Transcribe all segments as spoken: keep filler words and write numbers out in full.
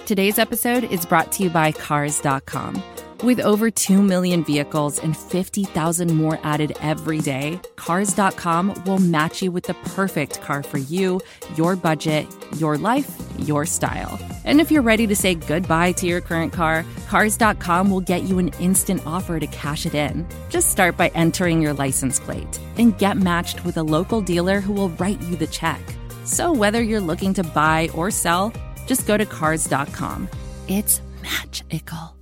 Today's episode is brought to you by Cars dot com. With over two million vehicles and fifty thousand more added every day, Cars dot com will match you with the perfect car for you, your budget, your life, your style. And if you're ready to say goodbye to your current car, Cars dot com will get you an instant offer to cash it in. Just start by entering your license plate and get matched with a local dealer who will write you the check. So whether you're looking to buy or sell, just go to Cars dot com. It's magical.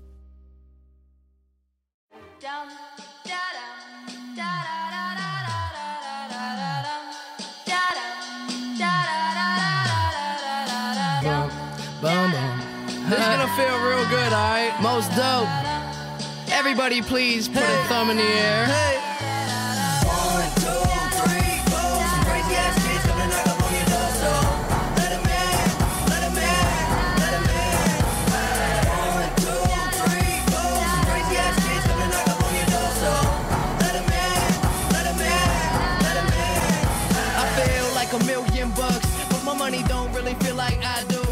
Boom, boom. This is gonna feel real good, alright? Most dope. Everybody please put hey. a thumb in the air. Hey. One, two, three, four. Some crazy ass kids coming knock up on your door, so let 'em in, let 'em in, let 'em in. One, two, three, four. Some crazy ass kids coming knock up on your door, so let 'em in, let 'em in, let 'em in. I feel like a million bucks, but my money don't really feel like I do.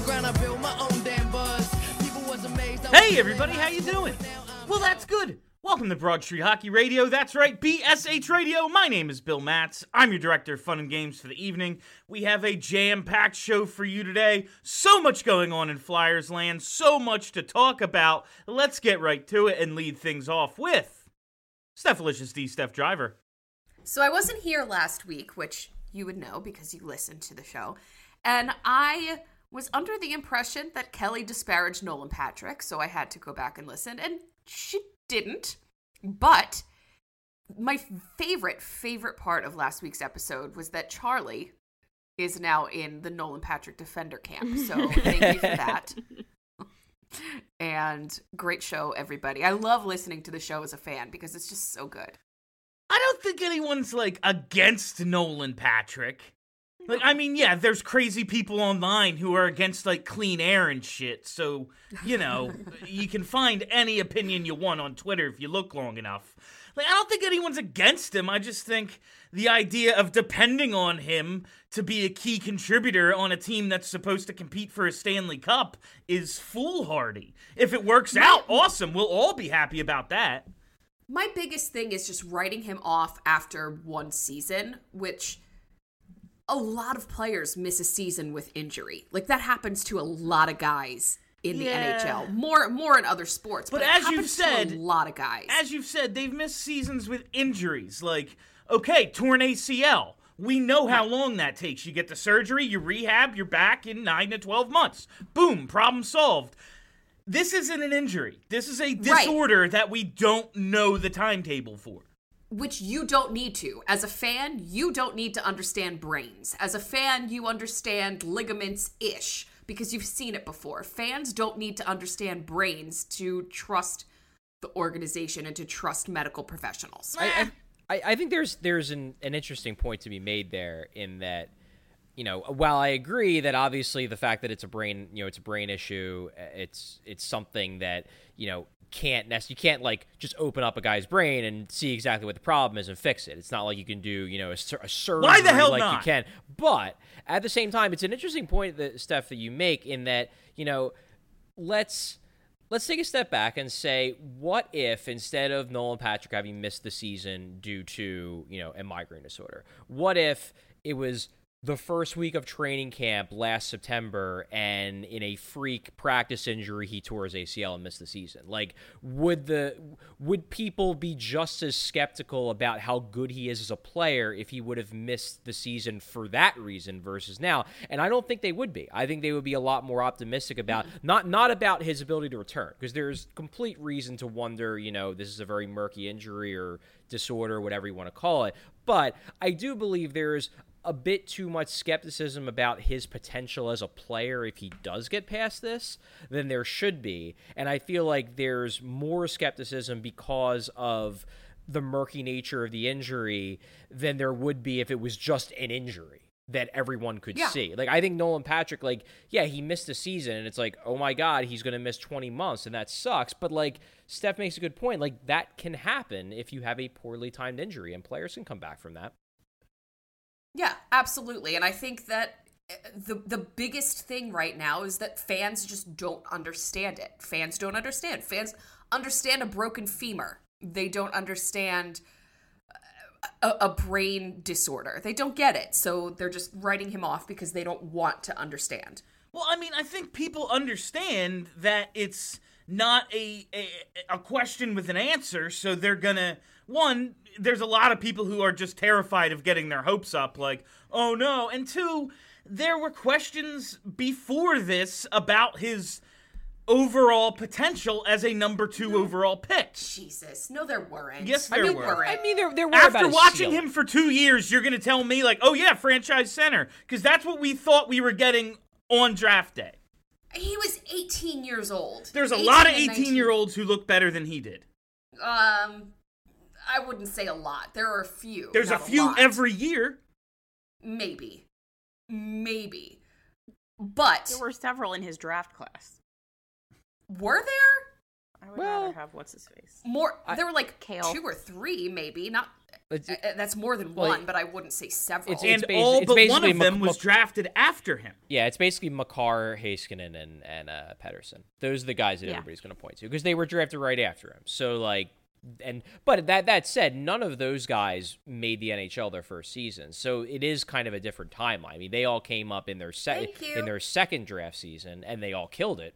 Hey everybody, how you doing? Well, that's good. Welcome to Broad Street Hockey Radio. That's right, B S H Radio. My name is Bill Matz. I'm your director of fun and games for the evening. We have a jam-packed show for you today. So much going on in Flyers land, so much to talk about. Let's get right to it and lead things off with Stephalicious D, Steph Driver. So I wasn't here last week, which you would know because you listened to the show, and I was under the impression that Kelly disparaged Nolan Patrick, so I had to go back and listen, and she didn't. But my favorite, favorite part of last week's episode was that Charlie is now in the Nolan Patrick defender camp, so thank you for that. And great show, everybody. I love listening to the show as a fan because it's just so good. I don't think anyone's, like, against Nolan Patrick. Like, I mean, yeah, there's crazy people online who are against, like, clean air and shit, so, you know, you can find any opinion you want on Twitter if you look long enough. Like, I don't think anyone's against him. I just think the idea of depending on him to be a key contributor on a team that's supposed to compete for a Stanley Cup is foolhardy. If it works out, awesome. We'll all be happy about that. My biggest thing is just writing him off after one season, which a lot of players miss a season with injury. Like, that happens to a lot of guys in the yeah. N H L. More more in other sports, but, but it as happens you've said, to a lot of guys. As you've said, they've missed seasons with injuries. Like, okay, torn A C L. We know how long that takes. You get the surgery, you rehab, you're back in nine to twelve months. Boom, problem solved. This isn't an injury. This is a disorder right. that we don't know the timetable for. Which you don't need to. As a fan, you don't need to understand brains. As a fan, you understand ligaments-ish because you've seen it before. Fans don't need to understand brains to trust the organization and to trust medical professionals. I, I, I think there's there's an, an interesting point to be made there in that, you know, while I agree that obviously the fact that it's a brain, you know, it's a brain issue, it's it's something that, you know, can't nest you can't like just open up a guy's brain and see exactly what the problem is and fix it. It's not like you can do, you know, a, a surgery Why the hell like not? you can. But at the same time, it's an interesting point that Steph that you make in that, you know, let's let's take a step back and say, what if instead of Nolan Patrick having missed the season due to, you know, a migraine disorder, what if it was the first week of training camp last September, and in a freak practice injury, he tore his A C L and missed the season? Like, would the would people be just as skeptical about how good he is as a player if he would have missed the season for that reason versus now? And I don't think they would be. I think they would be a lot more optimistic about, not not about his ability to return, because there's complete reason to wonder, you know, this is a very murky injury or disorder, whatever you want to call it. But I do believe there's a bit too much skepticism about his potential as a player if he does get past this than there should be. And I feel like there's more skepticism because of the murky nature of the injury than there would be if it was just an injury that everyone could yeah. see. Like, I think Nolan Patrick, like, yeah, he missed a season, and it's like, oh my God, he's going to miss twenty months, and that sucks. But, like, Steph makes a good point. Like, that can happen if you have a poorly timed injury, and players can come back from that. Yeah, absolutely. And I think that the the biggest thing right now is that fans just don't understand it. Fans don't understand. Fans understand a broken femur. They don't understand a, a brain disorder. They don't get it. So they're just writing him off because they don't want to understand. Well, I mean, I think people understand that it's not a, a a question with an answer, so they're gonna, one, there's a lot of people who are just terrified of getting their hopes up, like, oh no, and two, there were questions before this about his overall potential as a number two overall pick. Jesus, no, there weren't. Yes, there I mean, were. I mean, there, there were After about a watching ceiling. him for two years, you're going to tell me, like, oh yeah, franchise center, because that's what we thought we were getting on draft day. He was eighteen years old. There's a lot of and nineteen eighteen-year-olds who look better than he did. Um, I wouldn't say a lot. There are a few. There's a not few lot. every year. Maybe. Maybe. But There were several in his draft class. were there? I would Well- rather have what's his face. More, there were like Kale. two or three, maybe. Not. It's- uh, uh, that's more than well, one, but I wouldn't say several. it's- And basi- all it's but one basically of them Mc- was Mc- drafted after him. Yeah, it's basically Makar, Heiskanen, and and uh, Pedersen. Those are the guys that Yeah. everybody's going to point to because they were drafted right after him. So like, and but that that said, none of those guys made the N H L their first season. So it is kind of a different timeline. I mean, they all came up in their second Thank you. in their second draft season, and they all killed it.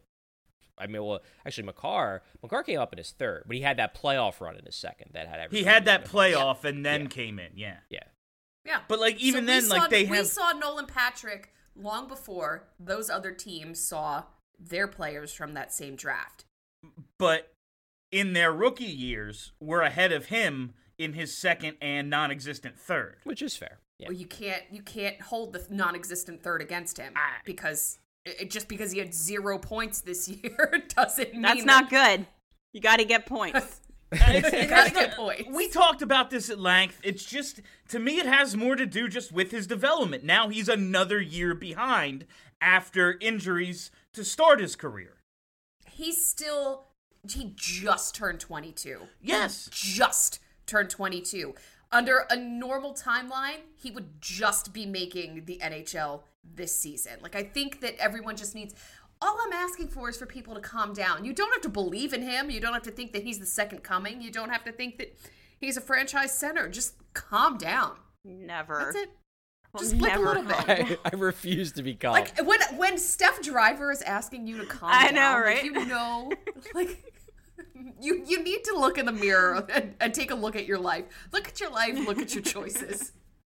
I mean, well, actually, Makar Makar came up in his third, but he had that playoff run in his second that had everything. He had that going. playoff and then Yeah. came in, yeah. Yeah. yeah. But like even So we then, saw, like they we have. saw Nolan Patrick long before those other teams saw their players from that same draft. But in their rookie years, we're ahead of him in his second and non-existent third. Which is fair. Yeah. Well, you can't you can't hold the non-existent third against him I- because it, just because he had zero points this year doesn't mean That's not good. You got to get points. It has good points. We talked about this at length. It's just, to me, it has more to do just with his development. Now he's another year behind after injuries to start his career. He's still he just turned twenty-two. Yes. Just turned twenty-two. Under a normal timeline, he would just be making the N H L this season. Like, I think that everyone just needs... All I'm asking for is for people to calm down. You don't have to believe in him. You don't have to think that he's the second coming. You don't have to think that he's a franchise center. Just calm down. Never. That's it. Will Just blip a never little bit. calm I, I refuse to be calm. Like, when when Steph Driver is asking you to calm I down, know, like, right? you know, like... You you need to look in the mirror and, and take a look at your life. Look at your life. Look at your choices.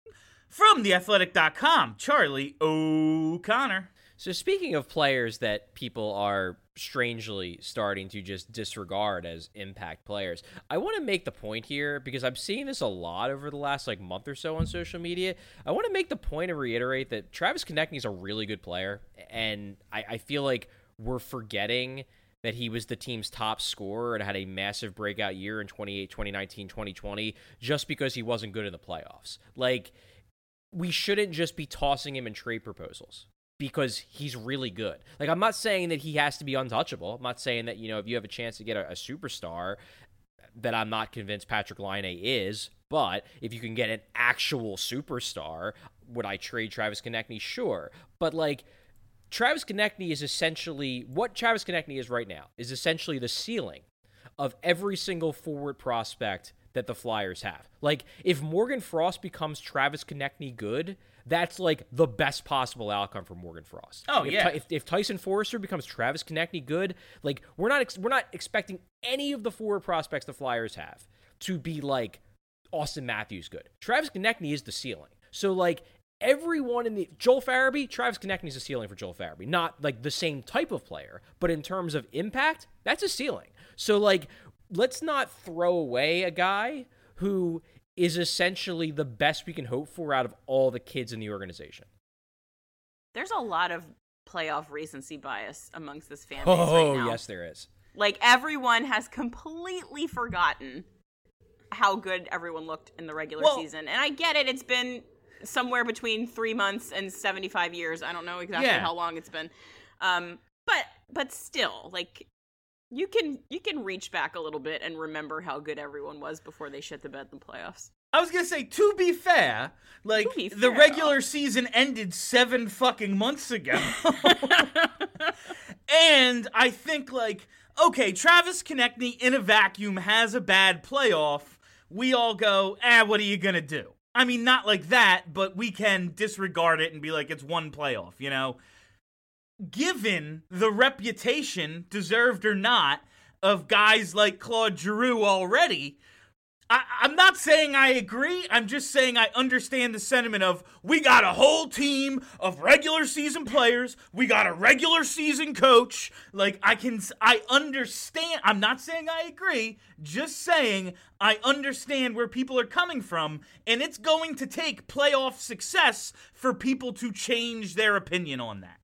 From the athletic dot com, Charlie O'Connor. So speaking of players that people are strangely starting to just disregard as impact players, I want to make the point here because I'm seeing this a lot over the last like month or so on social media. I want to make the point and reiterate that Travis Konecny is a really good player, and I, I feel like we're forgetting that he was the team's top scorer and had a massive breakout year in twenty-eight, twenty nineteen, twenty twenty just because he wasn't good in the playoffs. Like, we shouldn't just be tossing him in trade proposals because he's really good. Like, I'm not saying that he has to be untouchable. I'm not saying that, you know, if you have a chance to get a, a superstar, that I'm not convinced Patrick Laine is, but if you can get an actual superstar, would I trade Travis Konecny? Sure. But, like, Travis Konecny is essentially, what Travis Konecny is right now, is essentially the ceiling of every single forward prospect that the Flyers have. Like, if Morgan Frost becomes Travis Konecny good, that's like the best possible outcome for Morgan Frost. Oh, if, yeah. If, if Tyson Forrester becomes Travis Konecny good, like, we're not ex- we're not expecting any of the forward prospects the Flyers have to be like Austin Matthews good. Travis Konecny is the ceiling. So, like, everyone in the Joel Farabee, Travis Konecny is a ceiling for Joel Farabee. Not like the same type of player, but in terms of impact, that's a ceiling. So, like, let's not throw away a guy who is essentially the best we can hope for out of all the kids in the organization. There's a lot of playoff recency bias amongst this fan base Oh, right now. yes, there is. Like, everyone has completely forgotten how good everyone looked in the regular Well- season. And I get it. It's been somewhere between three months and seventy-five years. I don't know exactly Yeah. how long it's been. Um, but but still, like, you can you can reach back a little bit and remember how good everyone was before they shit the bed in the playoffs. I was gonna say, to be fair, like be the fair. regular season ended seven fucking months ago, and I think like, okay, Travis Konechny in a vacuum has a bad playoff. We all go, ah, what are you gonna do? I mean, not like that, but we can disregard it and be like, it's one playoff, you know? Given the reputation, deserved or not, of guys like Claude Giroux already, I, I'm not saying I agree. I'm just saying I understand the sentiment of, we got a whole team of regular season players. We got a regular season coach. Like, I can, I understand. I'm not saying I agree. Just saying I understand where people are coming from. And it's going to take playoff success for people to change their opinion on that.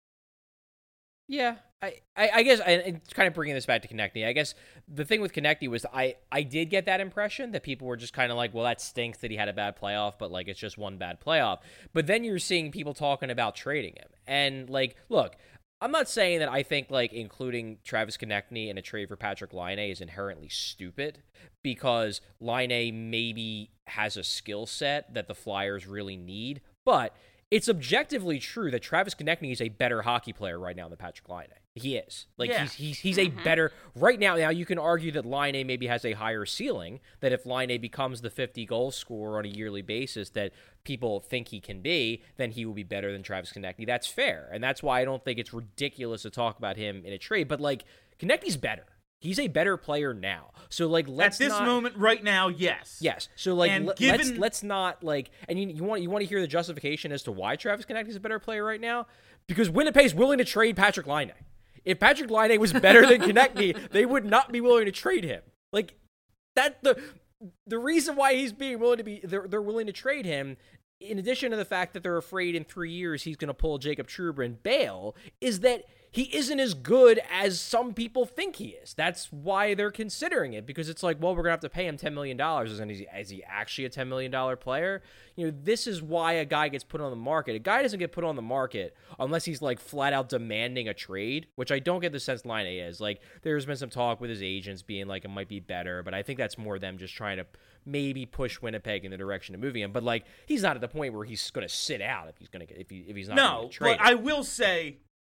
Yeah, I, I, I guess, and kind of bringing this back to Konechny, I guess the thing with Konechny was I, I did get that impression that people were just kind of like, well, that stinks that he had a bad playoff, but, like, it's just one bad playoff. But then you're seeing people talking about trading him. And, like, look, I'm not saying that I think, like, including Travis Konechny in a trade for Patrik Laine is inherently stupid, because Laine maybe has a skill set that the Flyers really need, but it's objectively true that Travis Konechny is a better hockey player right now than Patrik Laine. He is. Like, yeah. he's he's he's a better... Right now, now you can argue that Laine maybe has a higher ceiling, that if Laine becomes the fifty-goal scorer on a yearly basis that people think he can be, then he will be better than Travis Konechny. That's fair, and that's why I don't think it's ridiculous to talk about him in a trade. But, like, Konechny's better. He's a better player now. So, like, let's At this not... moment, right now, yes. Yes. So, like, And le- given- let's let's not, like... And you, you want you want to hear the justification as to why Travis Konechny is a better player right now? Because Winnipeg's willing to trade Patrik Laine. If Patrik Laine was better than Konechny, they would not be willing to trade him. Like, that... The the reason why he's being willing to be... They're, they're willing to trade him, in addition to the fact that they're afraid in three years he's going to pull Jacob Trouba and bail, is that he isn't as good as some people think he is. That's why they're considering it, because it's like, well, we're going to have to pay him ten million dollars. And is he, is he actually a ten million dollars player? You know, this is why a guy gets put on the market. A guy doesn't get put on the market unless he's, like, flat out demanding a trade, which I don't get the sense Laine is. Like, there's been some talk with his agents being like, it might be better, but I think that's more them just trying to maybe push Winnipeg in the direction of moving him. But, like, he's not at the point where he's going to sit out if he's going to get if he if he's not No, going to trade. but I will say,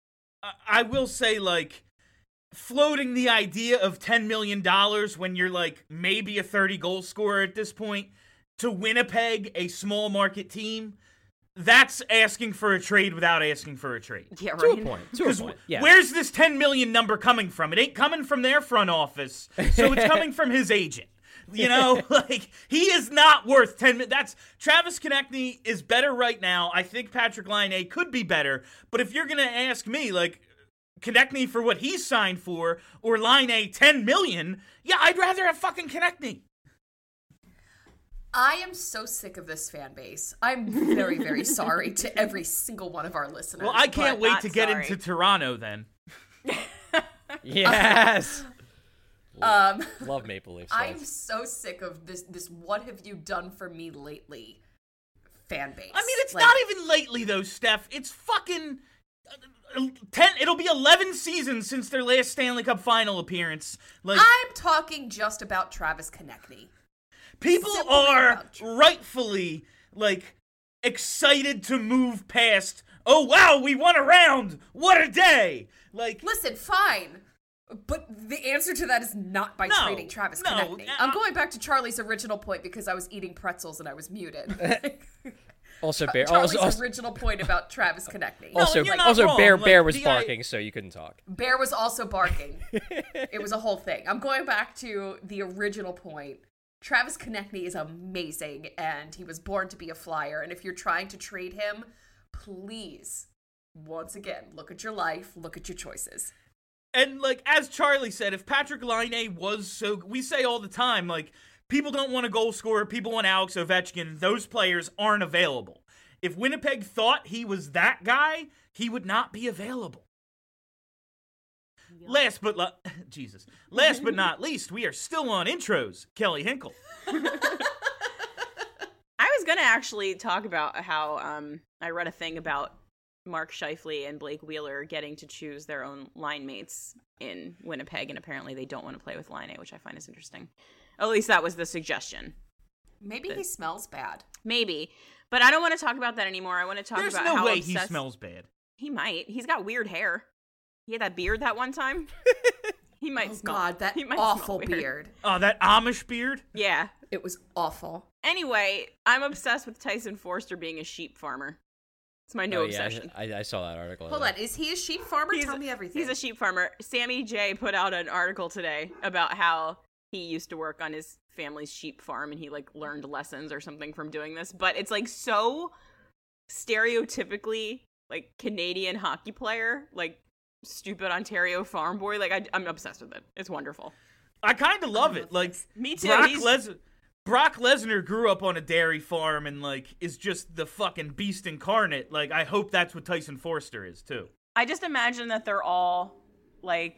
I will say, like, floating the idea of ten million dollars when you're, like, maybe a thirty-goal scorer at this point, to Winnipeg, a small market team, that's asking for a trade without asking for a trade. Yeah, to right. a point. To a Because point. Yeah. where's this ten million dollars number coming from? It ain't coming from their front office, so it's coming from his agent. You know, like, he is not worth ten million. That's Travis Konechny is better right now. I think Patrik Laine could be better, but if you're gonna ask me, like, Konechny for what he's signed for, or Laine ten million, yeah, I'd rather have fucking Konechny. I am so sick of this fan base. I'm very, very sorry to every single one of our listeners. Well, I can't but- wait not to get sorry. into Toronto then. Yes. Um, Love Maple Leafs. I'm fans. so sick of this. This "What have you done for me lately?" fan base. I mean, it's Like, not even lately though, Steph. It's fucking uh, ten. It'll be eleven seasons since their last Stanley Cup final appearance. Like, I'm talking just about Travis Konechny. people simply are about Tra- rightfully like excited to move past. Oh wow, we won a round! What a day! Like, Listen, fine. But the answer to that is not by No, trading Travis no, Konechny. uh, I'm going back to Charlie's original point because I was eating pretzels and I was muted. Also, Bear. Charlie's Also, also, original point about Travis Konechny. also, you're not also wrong. Bear. Like, Bear was the I- barking, so you couldn't talk. Bear was also barking. It was a whole thing. I'm going back to the original point. Travis Konechny is amazing, and he was born to be a Flyer. And if you're trying to trade him, please, once again, look at your life, look at your choices. And, like, as Charlie said, if Patrik Laine was so... We say all the time, like, people don't want a goal scorer, people want Alex Ovechkin. Those players aren't available. If Winnipeg thought he was that guy, he would not be available. Yep. Last but... La- Jesus. Last but not least, we are still on intros. Kelly Hinkle. I was going to actually talk about how um, I read a thing about Mark Scheifele and Blake Wheeler getting to choose their own line mates in Winnipeg, and apparently they don't want to play with Laine, which I find is interesting. At least that was the suggestion. Maybe he smells bad. Maybe. But I don't want to talk about that anymore. I want to talk There's about no how way obsessed... he smells bad. He might. He's got weird hair. He had that beard that one time. He might Oh, smell. God, that he might awful smell weird. beard. Oh, that Amish beard? Yeah. It was awful. Anyway, I'm obsessed with Tyson Forster being a sheep farmer. It's my new Oh, yeah, obsession. I, I saw that article. Hold on, is he a sheep farmer? He's- Tell me everything. He's a sheep farmer. Sammy J put out an article today about how he used to work on his family's sheep farm and he like learned lessons or something from doing this. But it's like so stereotypically like Canadian hockey player, like stupid Ontario farm boy. Like I, I'm obsessed with it. It's wonderful. I kind of love it. Like, Me too. Brock, He's- Les- Brock Lesnar grew up on a dairy farm and, like, is just the fucking beast incarnate. Like, I hope that's what Tyson Forster is, too. I just imagine that they're all like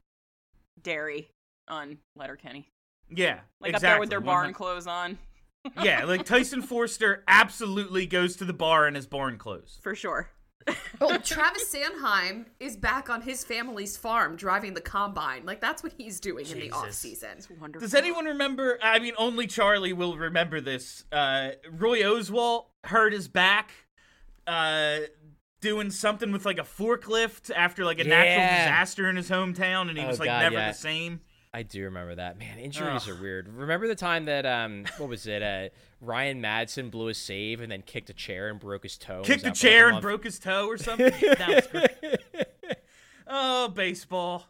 dairy on Letterkenny. Yeah, Like exactly. up there with their barn one hundred clothes on. Yeah, like, Tyson Forster absolutely goes to the bar in his barn clothes. For sure. Oh, Travis Sanheim is back on his family's farm driving the combine. Like, that's what he's doing in the Jesus. off-season. It's wonderful. Does anyone remember, I mean, only Charlie will remember this, uh, Roy Oswalt hurt his back, uh, doing something with, like, a forklift after, like, a natural Yeah. disaster in his hometown, and he Oh, was, like, God, never yeah. the same. I do remember that. Man, injuries Ugh. are weird. Remember the time that, um, what was it? Uh, Ryan Madsen blew a save and then kicked a chair and broke his toe. Kicked Was the out for, like, a chair and month? broke his toe or something? That was great. Oh, baseball.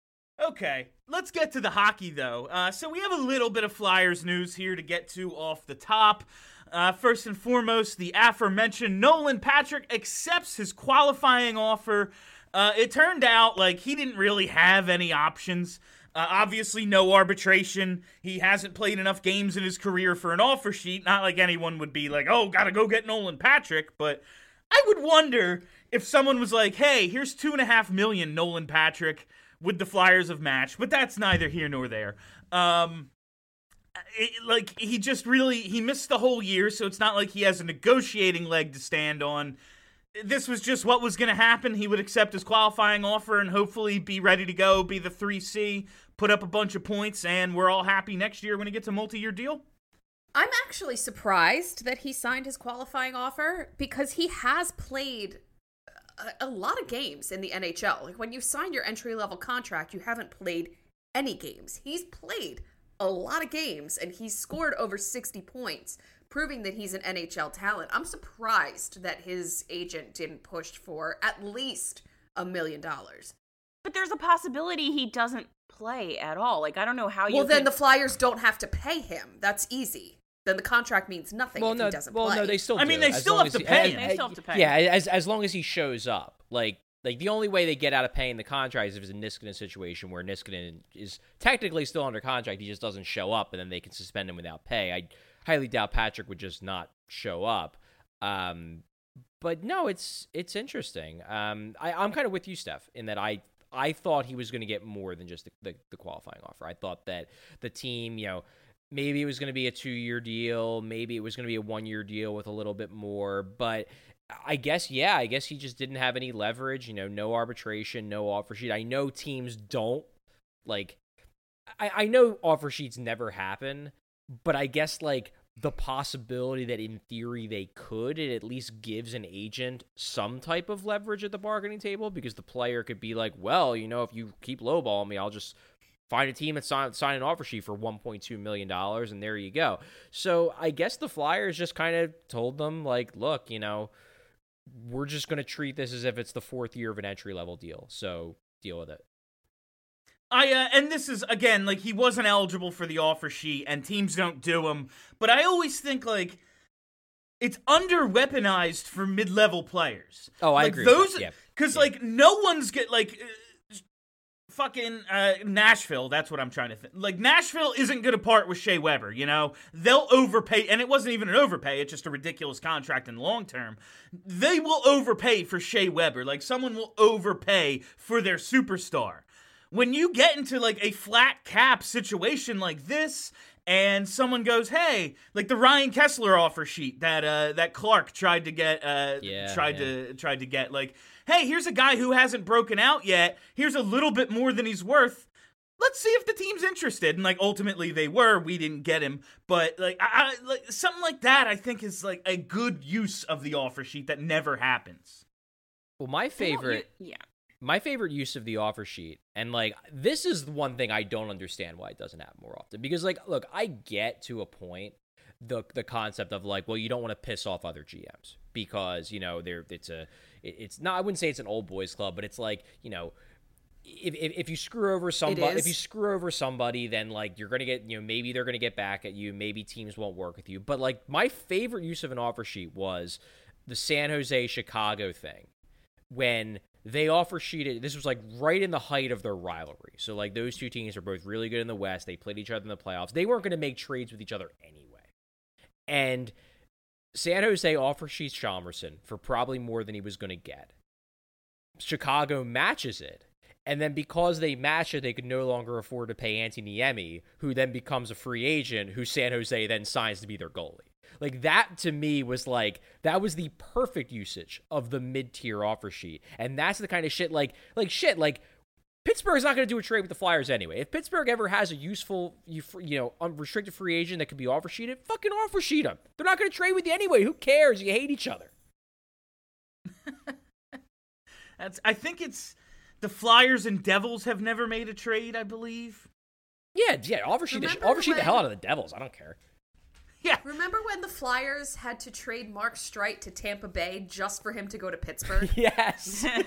Okay, let's get to the hockey, though. Uh, so we have a little bit of Flyers news here to get to off the top. Uh, first and foremost, the aforementioned Nolan Patrick accepts his qualifying offer. Uh, it turned out like he didn't really have any options. Uh, obviously, no arbitration. He hasn't played enough games in his career for an offer sheet. Not like anyone would be like, oh, gotta go get Nolan Patrick. But I would wonder if someone was like, hey, here's two and a half million Nolan Patrick, would the Flyers have matched? But that's neither here nor there. Um, it, like, he just really, he missed the whole year, so it's not like he has a negotiating leg to stand on. This was just what was going to happen. He would accept his qualifying offer and hopefully be ready to go, be the three C, put up a bunch of points, and we're all happy next year when he gets a multi-year deal. I'm actually surprised that he signed his qualifying offer because he has played a, a lot of games in the N H L. Like, when you sign your entry-level contract, you haven't played any games. He's played a lot of games, and he's scored over sixty points, proving that he's an N H L talent. I'm surprised that his agent didn't push for at least a million dollars. But there's a possibility he doesn't play at all. Like, I don't know how you Well, then could- the Flyers don't have to pay him. That's easy. Then the contract means nothing Well, if no, he doesn't well, play. no, they still. I mean, do, they as still long have as to he- pay uh, him. They still have to pay Yeah, him. as as long as he shows up, like like the only way they get out of paying the contract is if it's a Niskanen situation where Niskanen is technically still under contract, he just doesn't show up, and then they can suspend him without pay. I highly doubt Patrick would just not show up. Um, but no, it's it's interesting. Um, I, I'm kind of with you, Steph, in that I I thought he was going to get more than just the, the, the qualifying offer. I thought that the team, you know, maybe it was going to be a two-year deal, maybe it was going to be a one-year deal with a little bit more, but I guess, yeah, I guess he just didn't have any leverage, you know, no arbitration, no offer sheet. I know teams don't, like, I, I know offer sheets never happen, but I guess, like, the possibility that in theory they could, it at least gives an agent some type of leverage at the bargaining table, because the player could be like, well, you know, if you keep lowballing me, I'll just find a team and sign, sign an offer sheet for one point two million dollars, and there you go. So I guess the Flyers just kind of told them, like, look, you know, we're just going to treat this as if it's the fourth year of an entry-level deal, so deal with it. I uh, and this is, again, like, he wasn't eligible for the offer sheet, and teams don't do them, but I always think, like, it's under-weaponized for mid-level players. Oh, I like, agree with those, that, yeah. Because, Yeah. like, no one's get, like, uh, fucking uh, Nashville, that's what I'm trying to think. Like, Nashville isn't going to part with Shea Weber, you know? They'll overpay, and it wasn't even an overpay, it's just a ridiculous contract in the long term. They will overpay for Shea Weber. Like, someone will overpay for their superstar. When you get into, like, a flat cap situation like this, and someone goes, hey, like the Ryan Kessler offer sheet that uh, that Clark tried to get, uh, Yeah, tried yeah. to tried to get, like, hey, here's a guy who hasn't broken out yet. Here's a little bit more than he's worth. let's see if the team's interested. And like ultimately they were. We didn't get him, but like I, I like something like that. I think is like a good use of the offer sheet that never happens. Well, my favorite, you, yeah, my favorite use of the offer sheet, and like this is the one thing I don't understand why it doesn't happen more often. Because like, look, I get to a point the the concept of like, well, you don't want to piss off other G Ms because you know they're it's a it, it's not I wouldn't say it's an old boys club, but it's like you know. If, if if you screw over somebody, if you screw over somebody, then like you're gonna get, you know, maybe they're gonna get back at you. Maybe teams won't work with you. But like my favorite use of an offer sheet was the San Jose Chicago thing when they offer sheeted. This was like right in the height of their rivalry. So like those two teams are both really good in the West. They played each other in the playoffs. They weren't gonna make trades with each other anyway. And San Jose offer sheets Chalmerson for probably more than he was gonna get. Chicago matches it. And then because they match it, they could no longer afford to pay Antti Niemi, who then becomes a free agent, who San Jose then signs to be their goalie. Like, that to me was like, that was the perfect usage of the mid-tier offer sheet. And that's the kind of shit, like, like shit, like, Pittsburgh's not going to do a trade with the Flyers anyway. If Pittsburgh ever has a useful, you know, unrestricted free agent that could be offer sheeted, fucking offer sheet them. They're not going to trade with you anyway. Who cares? You hate each other. That's. I think it's... The Flyers and Devils have never made a trade, I believe. Yeah, yeah, offer sheet, the, offer sheet when, the hell out of the Devils. I don't care. Yeah. Remember when the Flyers had to trade Mark Streit to Tampa Bay just for him to go to Pittsburgh? Yes. And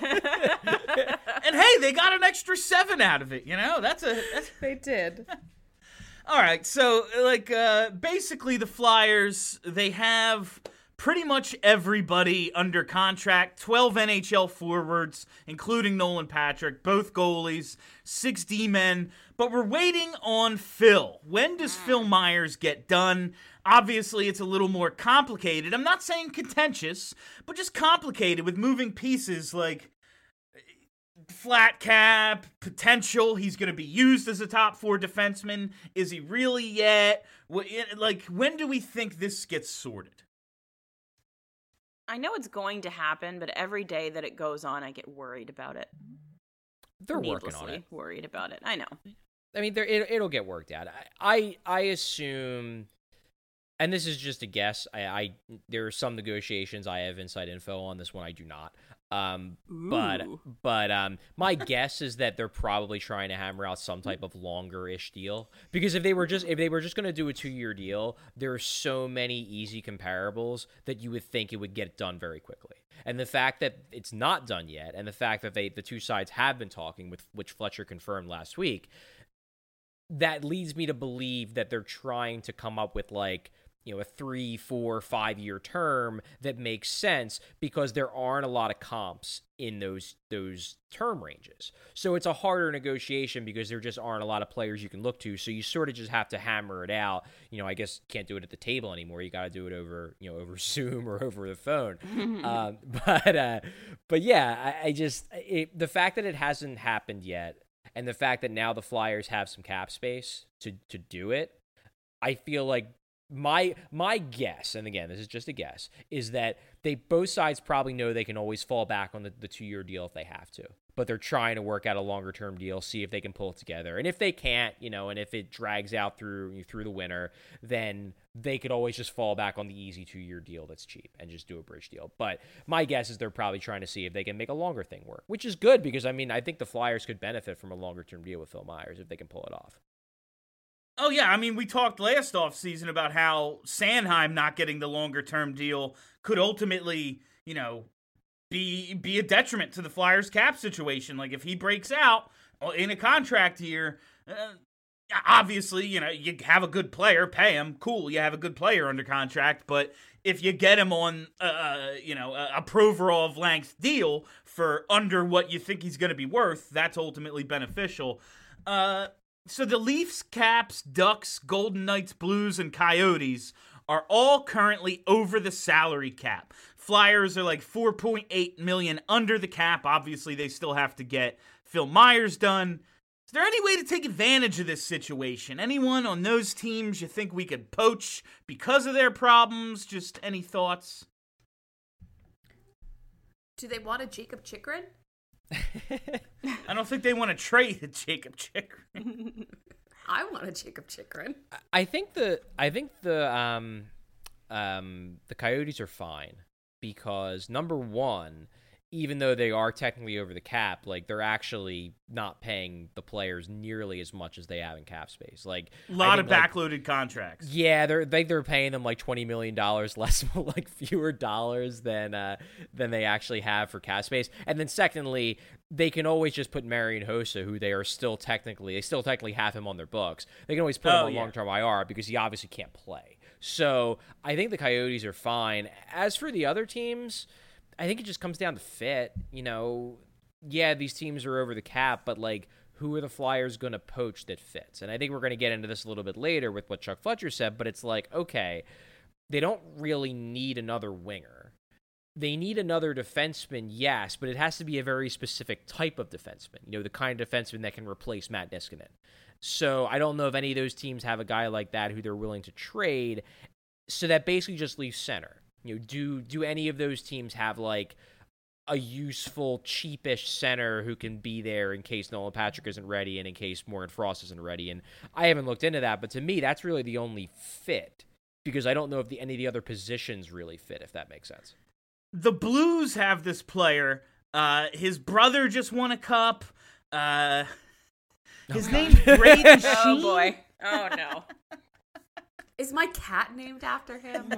hey, they got an extra seven out of it, you know? That's a... That's... They did. All right, so, like, uh, basically the Flyers, they have... pretty much everybody under contract, twelve N H L forwards, including Nolan Patrick, both goalies, six D-men, but we're waiting on Phil. When does Phil Myers get done? Obviously, it's a little more complicated. I'm not saying contentious, but just complicated with moving pieces like flat cap, potential. He's going to be used as a top four defenseman. Is he really yet? Like, when do we think this gets sorted? I know it's going to happen, but every day that it goes on, I get worried about it. They're working on it. Worried about it. I know. I mean, it, it'll get worked out. I, I I assume, and this is just a guess. I, I there are some negotiations I have inside info on. This one I do not. Um, but but um, my guess is that they're probably trying to hammer out some type of longer-ish deal, because if they were just if they were just going to do a two-year deal, there are so many easy comparables that you would think it would get done very quickly. And the fact that it's not done yet, and the fact that they the two sides have been talking, with which Fletcher confirmed last week, that leads me to believe that they're trying to come up with like, you know, a three, four, five-year term that makes sense, because there aren't a lot of comps in those those term ranges. So it's a harder negotiation because there just aren't a lot of players you can look to. So you sort of just have to hammer it out. You know, I guess can't do it at the table anymore. You got to do it over, you know, over Zoom or over the phone. um, but uh, but yeah, I, I just it, the fact that it hasn't happened yet, and the fact that now the Flyers have some cap space to to do it, I feel like. My my guess, and again, this is just a guess, is that they both sides probably know they can always fall back on the, the two-year deal if they have to. But they're trying to work out a longer-term deal, see if they can pull it together. And if they can't, you know, and if it drags out through through the winter, then they could always just fall back on the easy two-year deal that's cheap and just do a bridge deal. But my guess is they're probably trying to see if they can make a longer thing work, which is good because, I mean, I think the Flyers could benefit from a longer-term deal with Phil Myers if they can pull it off. Oh, yeah. I mean, we talked last offseason about how Sanheim not getting the longer-term deal could ultimately, you know, be be a detriment to the Flyers' cap situation. Like, if he breaks out in a contract year, uh, obviously, you know, you have a good player, pay him. Cool, you have a good player under contract. But if you get him on, uh, you know, a, a Provorov-length deal for under what you think he's going to be worth, that's ultimately beneficial. Uh... So the Leafs, Caps, Ducks, Golden Knights, Blues, and Coyotes are all currently over the salary cap. Flyers are like four point eight million dollars under the cap. Obviously, they still have to get Phil Myers done. Is there any way to take advantage of this situation? Anyone on those teams you think we could poach because of their problems? Just any thoughts? Do they want a Jacob Chikrin? I don't think they want to trade Jacob Chikrin. I want a Jacob Chikrin. I think the I think the um um the Coyotes are fine because number one, even though they are technically over the cap, like they're actually not paying the players nearly as much as they have in cap space. Like A lot think, of like, backloaded contracts. Yeah, they're they, they're paying them like twenty million dollars less, like fewer dollars than uh, than they actually have for cap space. And then secondly, they can always just put Marian Hossa, who they are still technically they still technically have him on their books. They can always put Oh, him on yeah. long term I R because he obviously can't play. So I think the Coyotes are fine. As for the other teams, I think it just comes down to fit. You know, yeah, these teams are over the cap, but like, who are the Flyers going to poach that fits? And I think we're going to get into this a little bit later with what Chuck Fletcher said, but it's like, okay, they don't really need another winger. They need another defenseman, yes, but it has to be a very specific type of defenseman. You know, the kind of defenseman that can replace Matt Niskanen. So I don't know if any of those teams have a guy like that who they're willing to trade. So that basically just leaves center. You know, do do any of those teams have like a useful, cheapish center who can be there in case Nolan Patrick isn't ready and in case Morgan Frost isn't ready? And I haven't looked into that, but to me, that's really the only fit because I don't know if the, any of the other positions really fit, if that makes sense. The Blues have this player. Uh, his brother just won a cup. Uh, his Oh, name's Braden Sheen. Oh boy. Oh no. Is my cat named after him?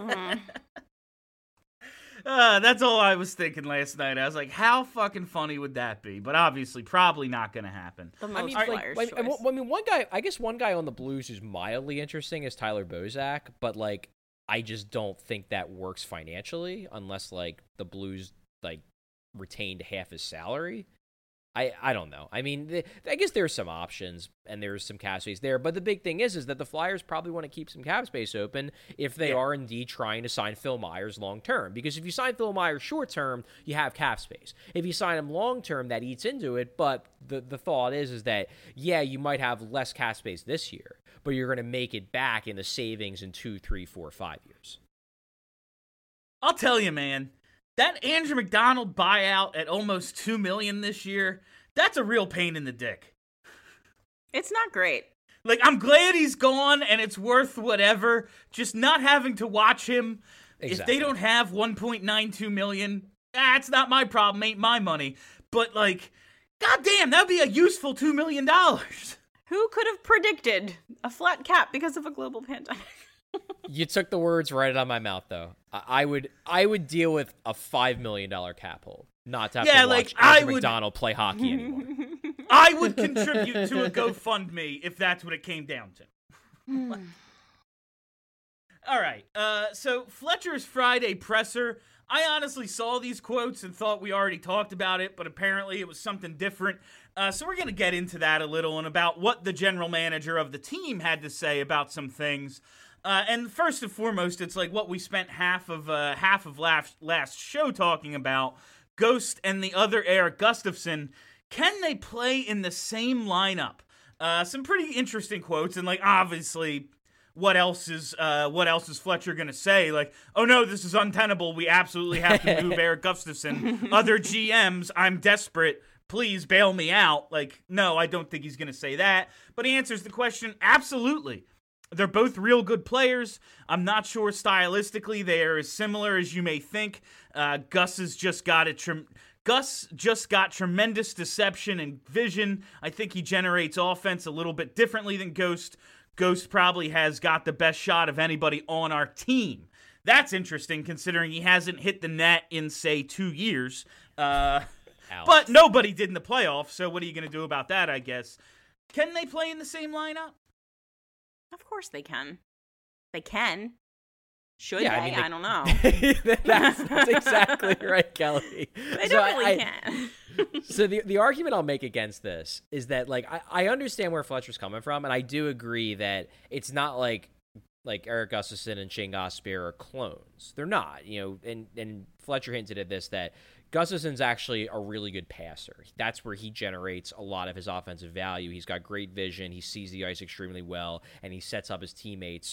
Uh, that's all I was thinking last night. I was like, how fucking funny would that be? But obviously, probably not going to happen. The most I mean, Flyers like, choice. I, I mean, one guy, I guess one guy on the Blues who's mildly interesting is Tyler Bozak, but like, I just don't think that works financially unless like the Blues like retained half his salary. I, I don't know. I mean, the, I guess there's some options and there's some cap space there, but the big thing is, is that the Flyers probably want to keep some cap space open if they Yeah. are indeed trying to sign Phil Myers long term. Because if you sign Phil Myers short term, you have cap space. If you sign him long term, that eats into it. But the the thought is, is that yeah, you might have less cap space this year, but you're going to make it back in the savings in two, three, four, five years. I'll tell you, man, that Andrew McDonald buyout at almost two million dollars this year, that's a real pain in the dick. It's not great. Like, I'm glad he's gone and it's worth whatever. Just not having to watch him. If Exactly. they don't have one point nine two million dollars, that's not my problem, ain't my money. But, like, goddamn, that would be a useful two million dollars. Who could have predicted a flat cap because of a global pandemic? You took the words right out of my mouth, though. I, I would, I would deal with a five million dollar cap hold, not to have Yeah, to like, watch I Andrew would- McDonald play hockey anymore. I would contribute to a GoFundMe if that's what it came down to. All right, uh, so Fletcher's Friday presser. I honestly saw these quotes and thought we already talked about it, but apparently it was something different. Uh, so we're going to get into that a little and about what the general manager of the team had to say about some things. Uh, and first and foremost, it's like what we spent half of uh, half of last, last show talking about. Ghost and the other Eric Gustafsson. Can they play in the same lineup? Uh, some pretty interesting quotes, and like obviously, what else is uh, what else is Fletcher gonna say? Like, oh no, this is untenable. We absolutely have to move Eric Gustafsson. Other G Ms, I'm desperate. Please bail me out. Like, no, I don't think he's gonna say that. But he answers the question absolutely. They're both real good players. I'm not sure stylistically they are as similar as you may think. Uh, Gus has just got a trem- Gus just got tremendous deception and vision. I think he generates offense a little bit differently than Ghost. Ghost probably has got the best shot of anybody on our team. That's interesting considering he hasn't hit the net in, say, two years. Uh, but nobody did in the playoffs, so what are you going to do about that, I guess? Can they play in the same lineup? Of course they can. They can. Should Yeah, they? I I, mean, they- don't know. that's, that's exactly right, Kelly. They So I- definitely I- can. So the the argument I'll make against this is that like I, I understand where Fletcher's coming from, and I do agree that it's not like like Eric Gustafsson and Shane Gostisbehere are clones. They're not, you know. And and Fletcher hinted at this that Gustafsson's actually a really good passer. That's where he generates a lot of his offensive value. He's got great vision. He sees the ice extremely well, and he sets up his teammates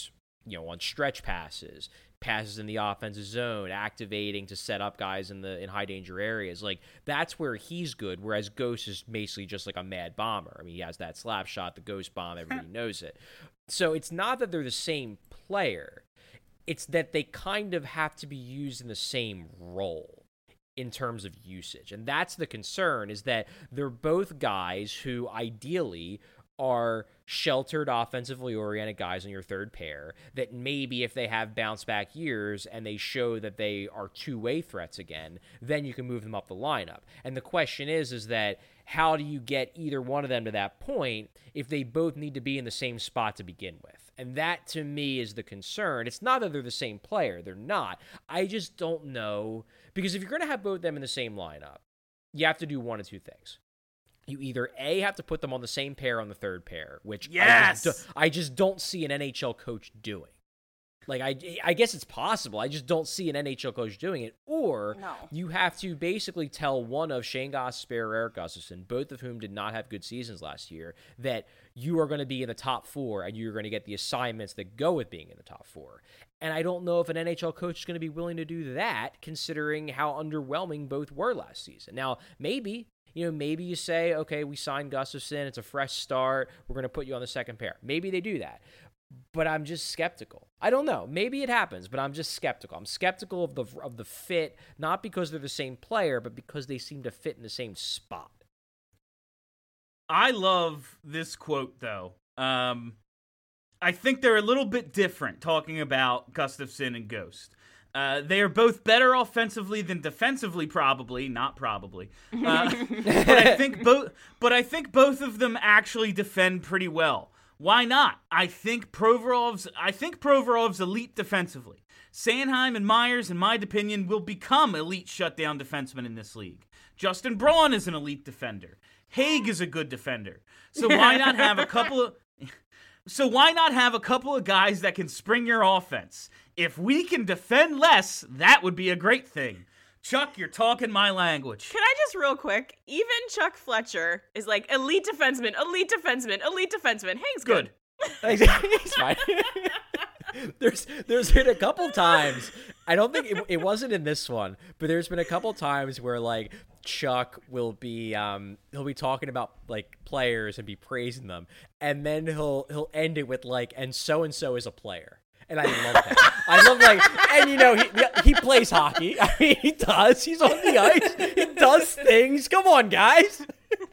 you know, on stretch passes, passes in the offensive zone, activating to set up guys in the in high danger areas. Like, that's where he's good, whereas Ghost is basically just like a mad bomber. I mean, he has that slap shot, the Ghost bomb, everybody knows it. So it's not that they're the same player. It's that they kind of have to be used in the same role in terms of usage. And that's the concern, is that they're both guys who ideally are sheltered, offensively oriented guys on your third pair that maybe if they have bounce back years and they show that they are two-way threats again, then you can move them up the lineup. And the question is, is that how do you get either one of them to that point if they both need to be in the same spot to begin with? And that, to me, is the concern. It's not that they're the same player. They're not. I just don't know. Because if you're going to have both of them in the same lineup, you have to do one of two things. You either, A, have to put them on the same pair on the third pair, which yes! I, just, I just don't see an N H L coach doing. Like, I, I guess it's possible. I just don't see an N H L coach doing it. Or no. you have to basically tell one of Shane Gostisbehere or Erik Gustafsson, both of whom did not have good seasons last year, that you are going to be in the top four and you're going to get the assignments that go with being in the top four. And I don't know if an N H L coach is going to be willing to do that, considering how underwhelming both were last season. Now, maybe... You know, maybe you say, okay, we signed Gustafsson. It's a fresh start. We're going to put you on the second pair. Maybe they do that. But I'm just skeptical. I don't know. Maybe it happens, but I'm just skeptical. I'm skeptical of the of the fit, not because they're the same player, but because they seem to fit in the same spot. I love this quote, though. Um, I think they're a little bit different talking about Gustafsson and Ghost. Uh, they are both better offensively than defensively, probably not probably. Uh, but I think both. But I think both of them actually defend pretty well. Why not? I think Provorov's. I think Provorov's elite defensively. Sanheim and Myers, in my opinion, will become elite shutdown defensemen in this league. Justin Braun is an elite defender. Haig is a good defender. So why not have a couple of? So why not have a couple of guys that can spring your offense? If we can defend less, that would be a great thing. Chuck, you're talking my language. Can I just real quick? Even Chuck Fletcher is like elite defenseman, elite defenseman, elite defenseman. Haig's good. Good. He's fine. there's there's been a couple times. I don't think it, it wasn't in this one, but there's been a couple times where like Chuck will be um he'll be talking about like players and be praising them, and then he'll he'll end it with like, and so and so is a player. And I love that. I love like, and you know, he he plays hockey. I mean, he does. He's on the ice. He does things. Come on, guys.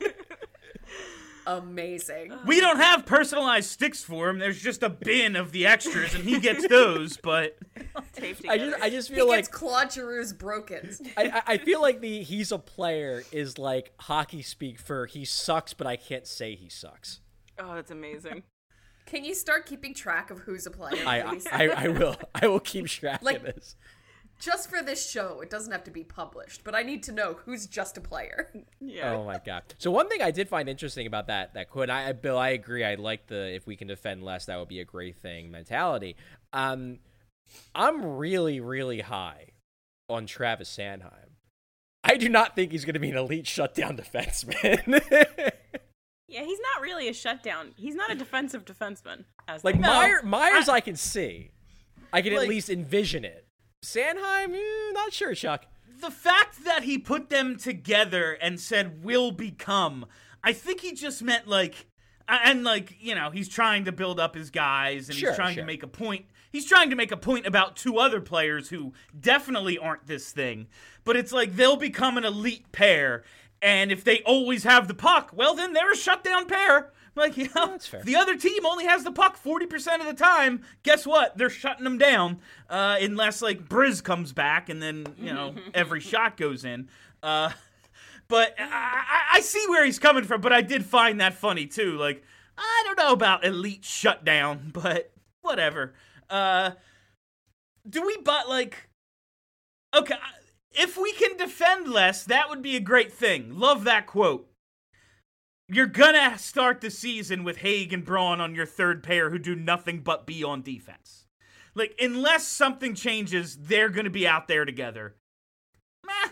Amazing. We don't have personalized sticks for him. There's just a bin of the extras, and he gets those. But I just, I just he feel gets like Claude Giroux's broken. I, I feel like the he's a player is like hockey speak for he sucks, but I can't say he sucks. Oh, that's amazing. Can you start keeping track of who's a player, I, please? I, I will. I will keep track Like- of this. Just for this show, it doesn't have to be published, but I need to know who's just a player. Yeah. Oh my god. So one thing I did find interesting about that that quote, I Bill, I agree. I like the if we can defend less, that would be a great thing mentality. Um, I'm really, really high on Travis Sanheim. I do not think he's going to be an elite shutdown defenseman. Yeah, he's not really a shutdown. He's not a defensive defenseman. As like they- Meyer, No, Myers, I, I- can see. I can Like- at least envision it. Sanheim, eh, not sure, Chuck. the fact that he put them together and said will become, I think he just meant like, and like, you know, he's trying to build up his guys and Sure, he's trying sure. to make a point. He's trying to make a point about two other players who definitely aren't this thing. But it's like they'll become an elite pair. And if they always have the puck, well, then they're a shutdown pair. Like, you know, that's fair. if the other team only has the puck forty percent of the time, guess what? They're shutting them down. Uh, unless, like, Briz comes back and then, you know, every shot goes in. Uh, but I, I, I see where he's coming from, but I did find that funny, too. Like, I don't know about elite shutdown, but whatever. Uh, do we, but, like, okay, if we can defend less, that would be a great thing. Love that quote. You're gonna start the season with Haig and Braun on your third pair who do nothing but be on defense. Like, unless something changes, they're gonna be out there together. Meh.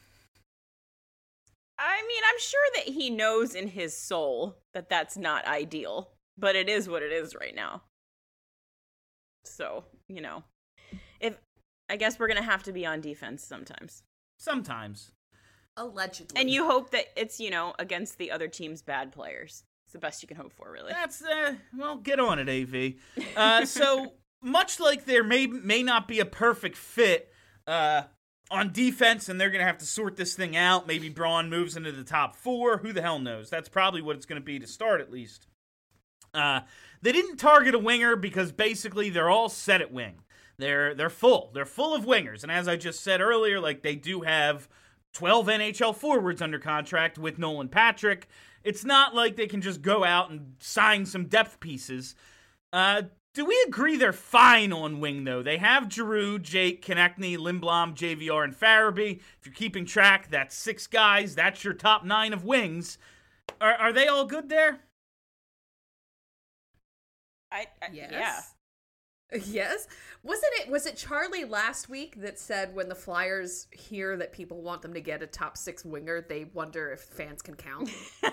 I mean, I'm sure that he knows in his soul that that's not ideal, but it is what it is right now. So, you know, if I guess we're going to have to be on defense sometimes. Sometimes. Allegedly. And you hope that it's, you know, against the other team's bad players. It's the best you can hope for, really. That's, uh, well, get on it, A V. Uh, so, much like there may may not be a perfect fit uh, on defense, and they're going to have to sort this thing out, maybe Braun moves into the top four, who the hell knows? That's probably what it's going to be to start, at least. Uh, they didn't target a winger because basically they're all set at wing. They're they're full. They're full of wingers. And as I just said earlier, like they do have twelve N H L forwards under contract with Nolan Patrick. It's not like they can just go out and sign some depth pieces. Uh, do we agree they're fine on wing, though? They have Giroux, Jake, Konechny, Lindblom, J V R, and Farabee. If you're keeping track, that's six guys. That's your top nine of wings. Are, are they all good there? I, I Yes. Yeah. Yes. Wasn't it was it Charlie last week that said when the Flyers hear that people want them to get a top six winger, they wonder if fans can count?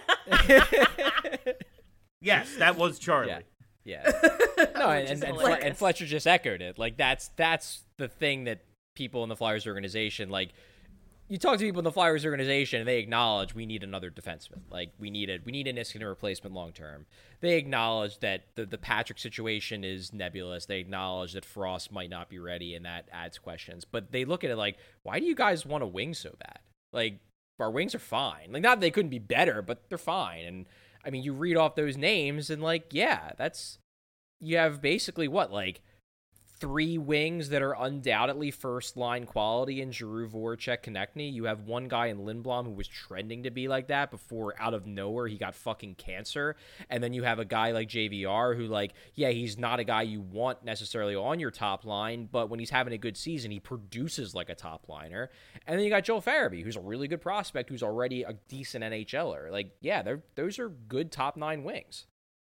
Yes, that was Charlie. Yeah. Yeah. No, and, and, and, Fle- hilarious. and Fletcher just echoed it. Like that's that's the thing that people in the Flyers organization, like you talk to people in the Flyers organization and they acknowledge we need another defenseman. Like we need a we need a Niskanen replacement long term. They acknowledge that the, the Patrick situation is nebulous. They acknowledge that Frost might not be ready and that adds questions. But they look at it like, why do you guys want a wing so bad? Like our wings are fine. Like not that they couldn't be better, but they're fine. And I mean, you read off those names and like, yeah, that's you have basically what, like three wings that are undoubtedly first line quality in Giroux, Voracek, Konechny. You have one guy in Lindblom who was trending to be like that before out of nowhere he got fucking cancer. And then you have a guy like J V R who like, yeah, he's not a guy you want necessarily on your top line, but when he's having a good season, he produces like a top liner. And then you got Joel Farabee, who's a really good prospect, who's already a decent N H L er. Like, yeah, they're, those are good top nine wings.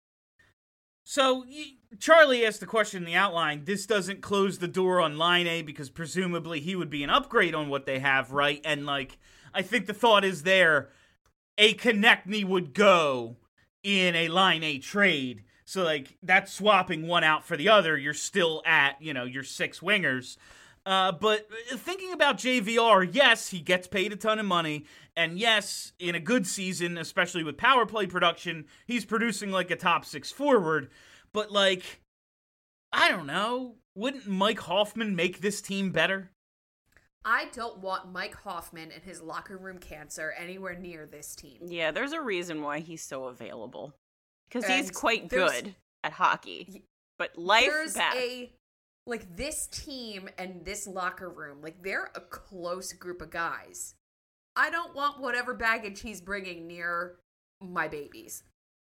So, Charlie asked the question in the outline, this doesn't close the door on Line A because presumably he would be an upgrade on what they have, right? And, like, I think the thought is there, a Konechny would go in a Line A trade. So, like, that's swapping one out for the other. You're still at, you know, your six wingers. Uh, but thinking about J V R, yes, he gets paid a ton of money. And yes, in a good season, especially with power play production, he's producing like a top six forward. But like, I don't know. Wouldn't Mike Hoffman make this team better? I don't want Mike Hoffman and his locker room cancer anywhere near this team. Yeah, there's a reason why he's so available. Because And he's quite there's- good at hockey. But life There's bad. a like this team and this locker room, like they're a close group of guys. I don't want whatever baggage he's bringing near my babies.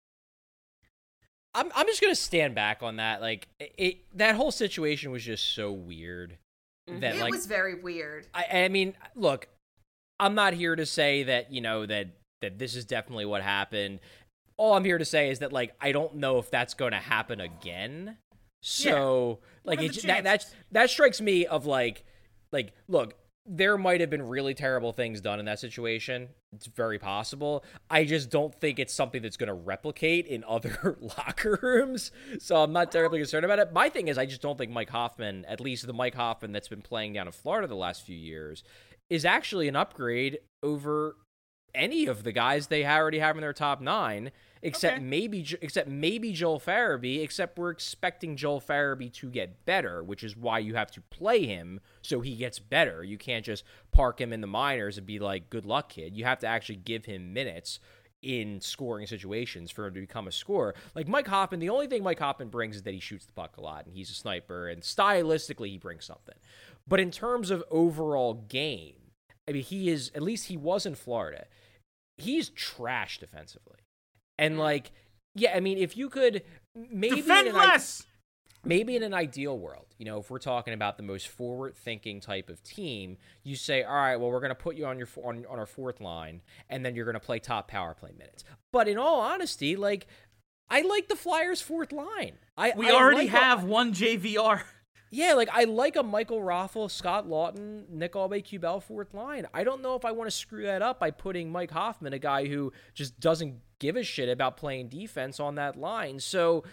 I'm I'm just gonna stand back on that. Like it, that whole situation was just so weird that It like was very weird. I I mean, look, I'm not here to say that you know that that this is definitely what happened. All I'm here to say is that like I don't know if that's going to happen again. So Yeah. like What are it, the that that chances? that strikes me of like like look. There might have been really terrible things done in that situation. It's very possible. I just don't think it's something that's going to replicate in other locker rooms. So I'm not terribly concerned about it. My thing is, I just don't think Mike Hoffman, at least the Mike Hoffman that's been playing down in Florida the last few years, is actually an upgrade over any of the guys they already have in their top nine, except Okay. maybe except maybe Joel Farabee, except we're expecting Joel Farabee to get better, which is why you have to play him so he gets better. You can't just park him in the minors and be like, good luck, kid. You have to actually give him minutes in scoring situations for him to become a scorer. Like Mike Hoffman, the only thing Mike Hoffman brings is that he shoots the puck a lot and he's a sniper, and stylistically he brings something. But in terms of overall game, I mean, he is, at least he was in Florida, he's trash defensively. And like, yeah, I mean, if you could maybe Defend in an, i- less! maybe in an ideal world, you know, if we're talking about the most forward-thinking type of team, you say, all right, well, we're going to put you on your on, on our fourth line, and then you're going to play top power play minutes. But in all honesty, like, I like the Flyers' fourth line. I We I already like a- have one J V R. yeah, like I like a Michael Raffle, Scott Lawton, Nick Aube-Kubel fourth line. I don't know if I want to screw that up by putting Mike Hoffman, a guy who just doesn't give a shit about playing defense, on that line. So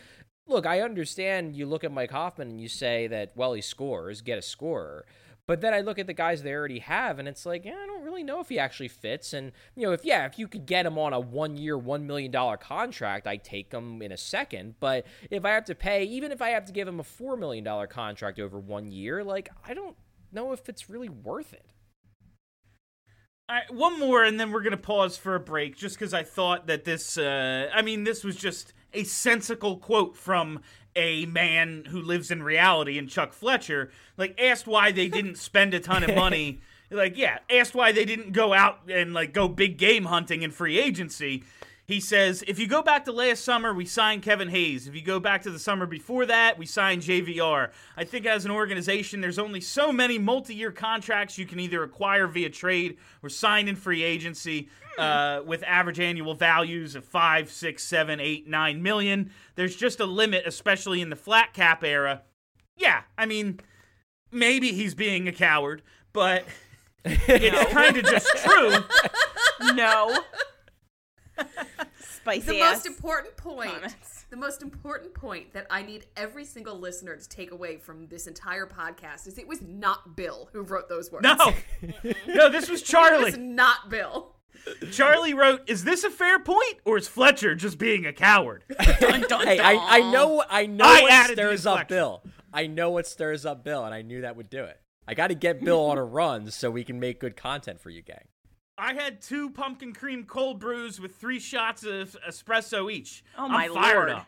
look, I understand you look at Mike Hoffman and you say that, well, he scores, get a scorer. But then I look at the guys they already have, and it's like, yeah, I don't really know if he actually fits. And, you know, if, yeah, if you could get him on a one-year, one million dollars contract, I'd take him in a second. But if I have to pay, even if I have to give him a four million dollars contract over one year, like, I don't know if it's really worth it. All right, one more, and then we're going to pause for a break, just because I thought that this, uh, I mean, this was just a sensical quote from a man who lives in reality, and Chuck Fletcher, like, asked why they didn't spend a ton of money. Like, yeah, asked why they didn't go out and, like, go big game hunting in free agency. He says, if you go back to last summer, we signed Kevin Hayes. If you go back to the summer before that, we signed J V R. I think as an organization, there's only so many multi-year contracts you can either acquire via trade or sign in free agency uh, with average annual values of five, six, seven, eight, nine million. There's just a limit, especially in the flat cap era. Yeah, I mean, maybe he's being a coward, but it's kind of just true. No. Spicy The ass most important point, comments. the most important point that I need every single listener to take away from this entire podcast is it was not Bill who wrote those words. No, no, this was It Charlie. was not Bill. Charlie wrote, is this a fair point, or is Fletcher just being a coward? Dun, dun, Hey, I, I know I know I what added the stirs up inflection. Bill. I know what stirs up Bill, and I knew that would do it. I got to get Bill on a run so we can make good content for you, gang. I had two pumpkin cream cold brews with three shots of espresso each. Oh, my I'm fired Lord. up.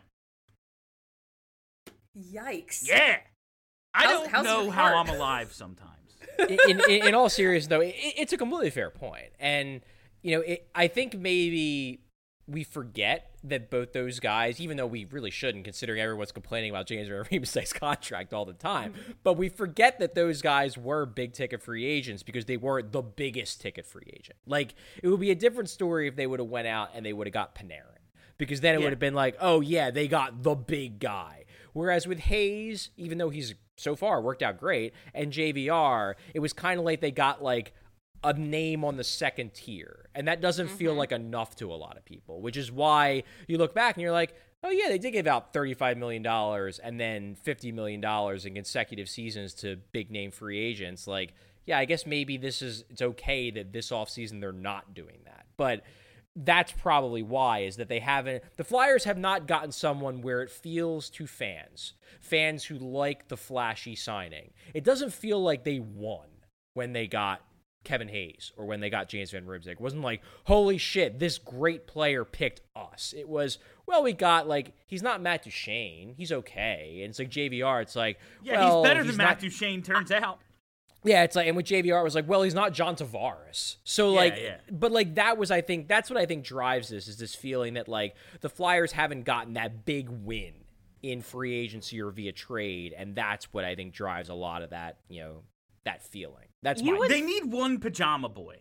Yikes. Yeah. I How's- don't how's know your how heart? I'm alive sometimes. in, in, in all seriousness, though, it, it's a completely fair point. And, you know, it, I think maybe we forget that both those guys, even though we really shouldn't, considering everyone's complaining about James Van-Riemsdyk's contract all the time, but we forget that those guys were big-ticket free agents because they weren't the biggest ticket free agent. Like, it would be a different story if they would have went out and they would have got Panarin, because then it Yeah. would have been like, oh, yeah, they got the big guy. Whereas with Hayes, even though he's so far worked out great, and J V R, it was kind of like they got, like, a name on the second tier. And that doesn't mm-hmm. feel like enough to a lot of people, which is why you look back and you're like, oh, yeah, they did give out thirty-five million dollars and then fifty million dollars in consecutive seasons to big-name free agents. Like, yeah, I guess maybe this is it's okay that this offseason they're not doing that. But that's probably why, is that they haven't – the Flyers have not gotten someone where it feels to fans, fans who like the flashy signing. It doesn't feel like they won when they got Kevin Hayes or when they got James Van Riemsdyk. It wasn't like, holy shit, this great player picked us. It was, well, we got, like, he's not Matt Duchene. He's okay. And it's like J V R, it's like, Yeah, well, he's better he's than not, Matt Duchene, turns out. Yeah, it's like, and with J V R, it was like, well, he's not John Tavares. So, Yeah, like, yeah. but, like, that was, I think, that's what I think drives this, is this feeling that, like, the Flyers haven't gotten that big win in free agency or via trade, and that's what I think drives a lot of that, you know, that feeling. That's You my would- They need one pajama boy.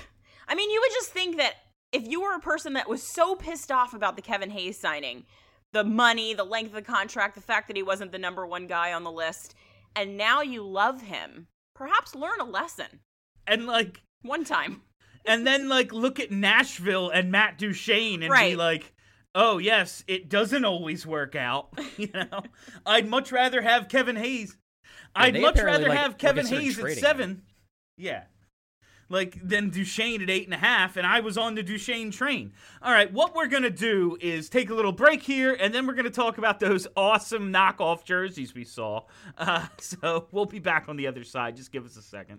I mean, you would just think that if you were a person that was so pissed off about the Kevin Hayes signing, the money, the length of the contract, the fact that he wasn't the number one guy on the list, and now you love him, perhaps learn a lesson. And, like, One time. and then, like, look at Nashville and Matt Duchene and be Right. like, oh, yes, it doesn't always work out. You know? I'd much rather have Kevin Hayes. I'd they much apparently, rather like, have were Kevin considered Hayes at trading seven. Yeah. Like, than Duchene at eight and a half, and I was on the Duchene train. All right, what we're going to do is take a little break here, and then we're going to talk about those awesome knockoff jerseys we saw. Uh, so we'll be back on the other side. Just give us a second.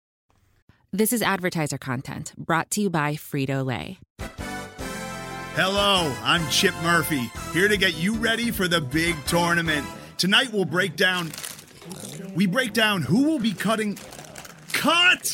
This is advertiser content brought to you by Frito-Lay. Hello, I'm Chip Murphy, here to get you ready for the big tournament. Tonight we'll break down, we break down who will be cutting, cut!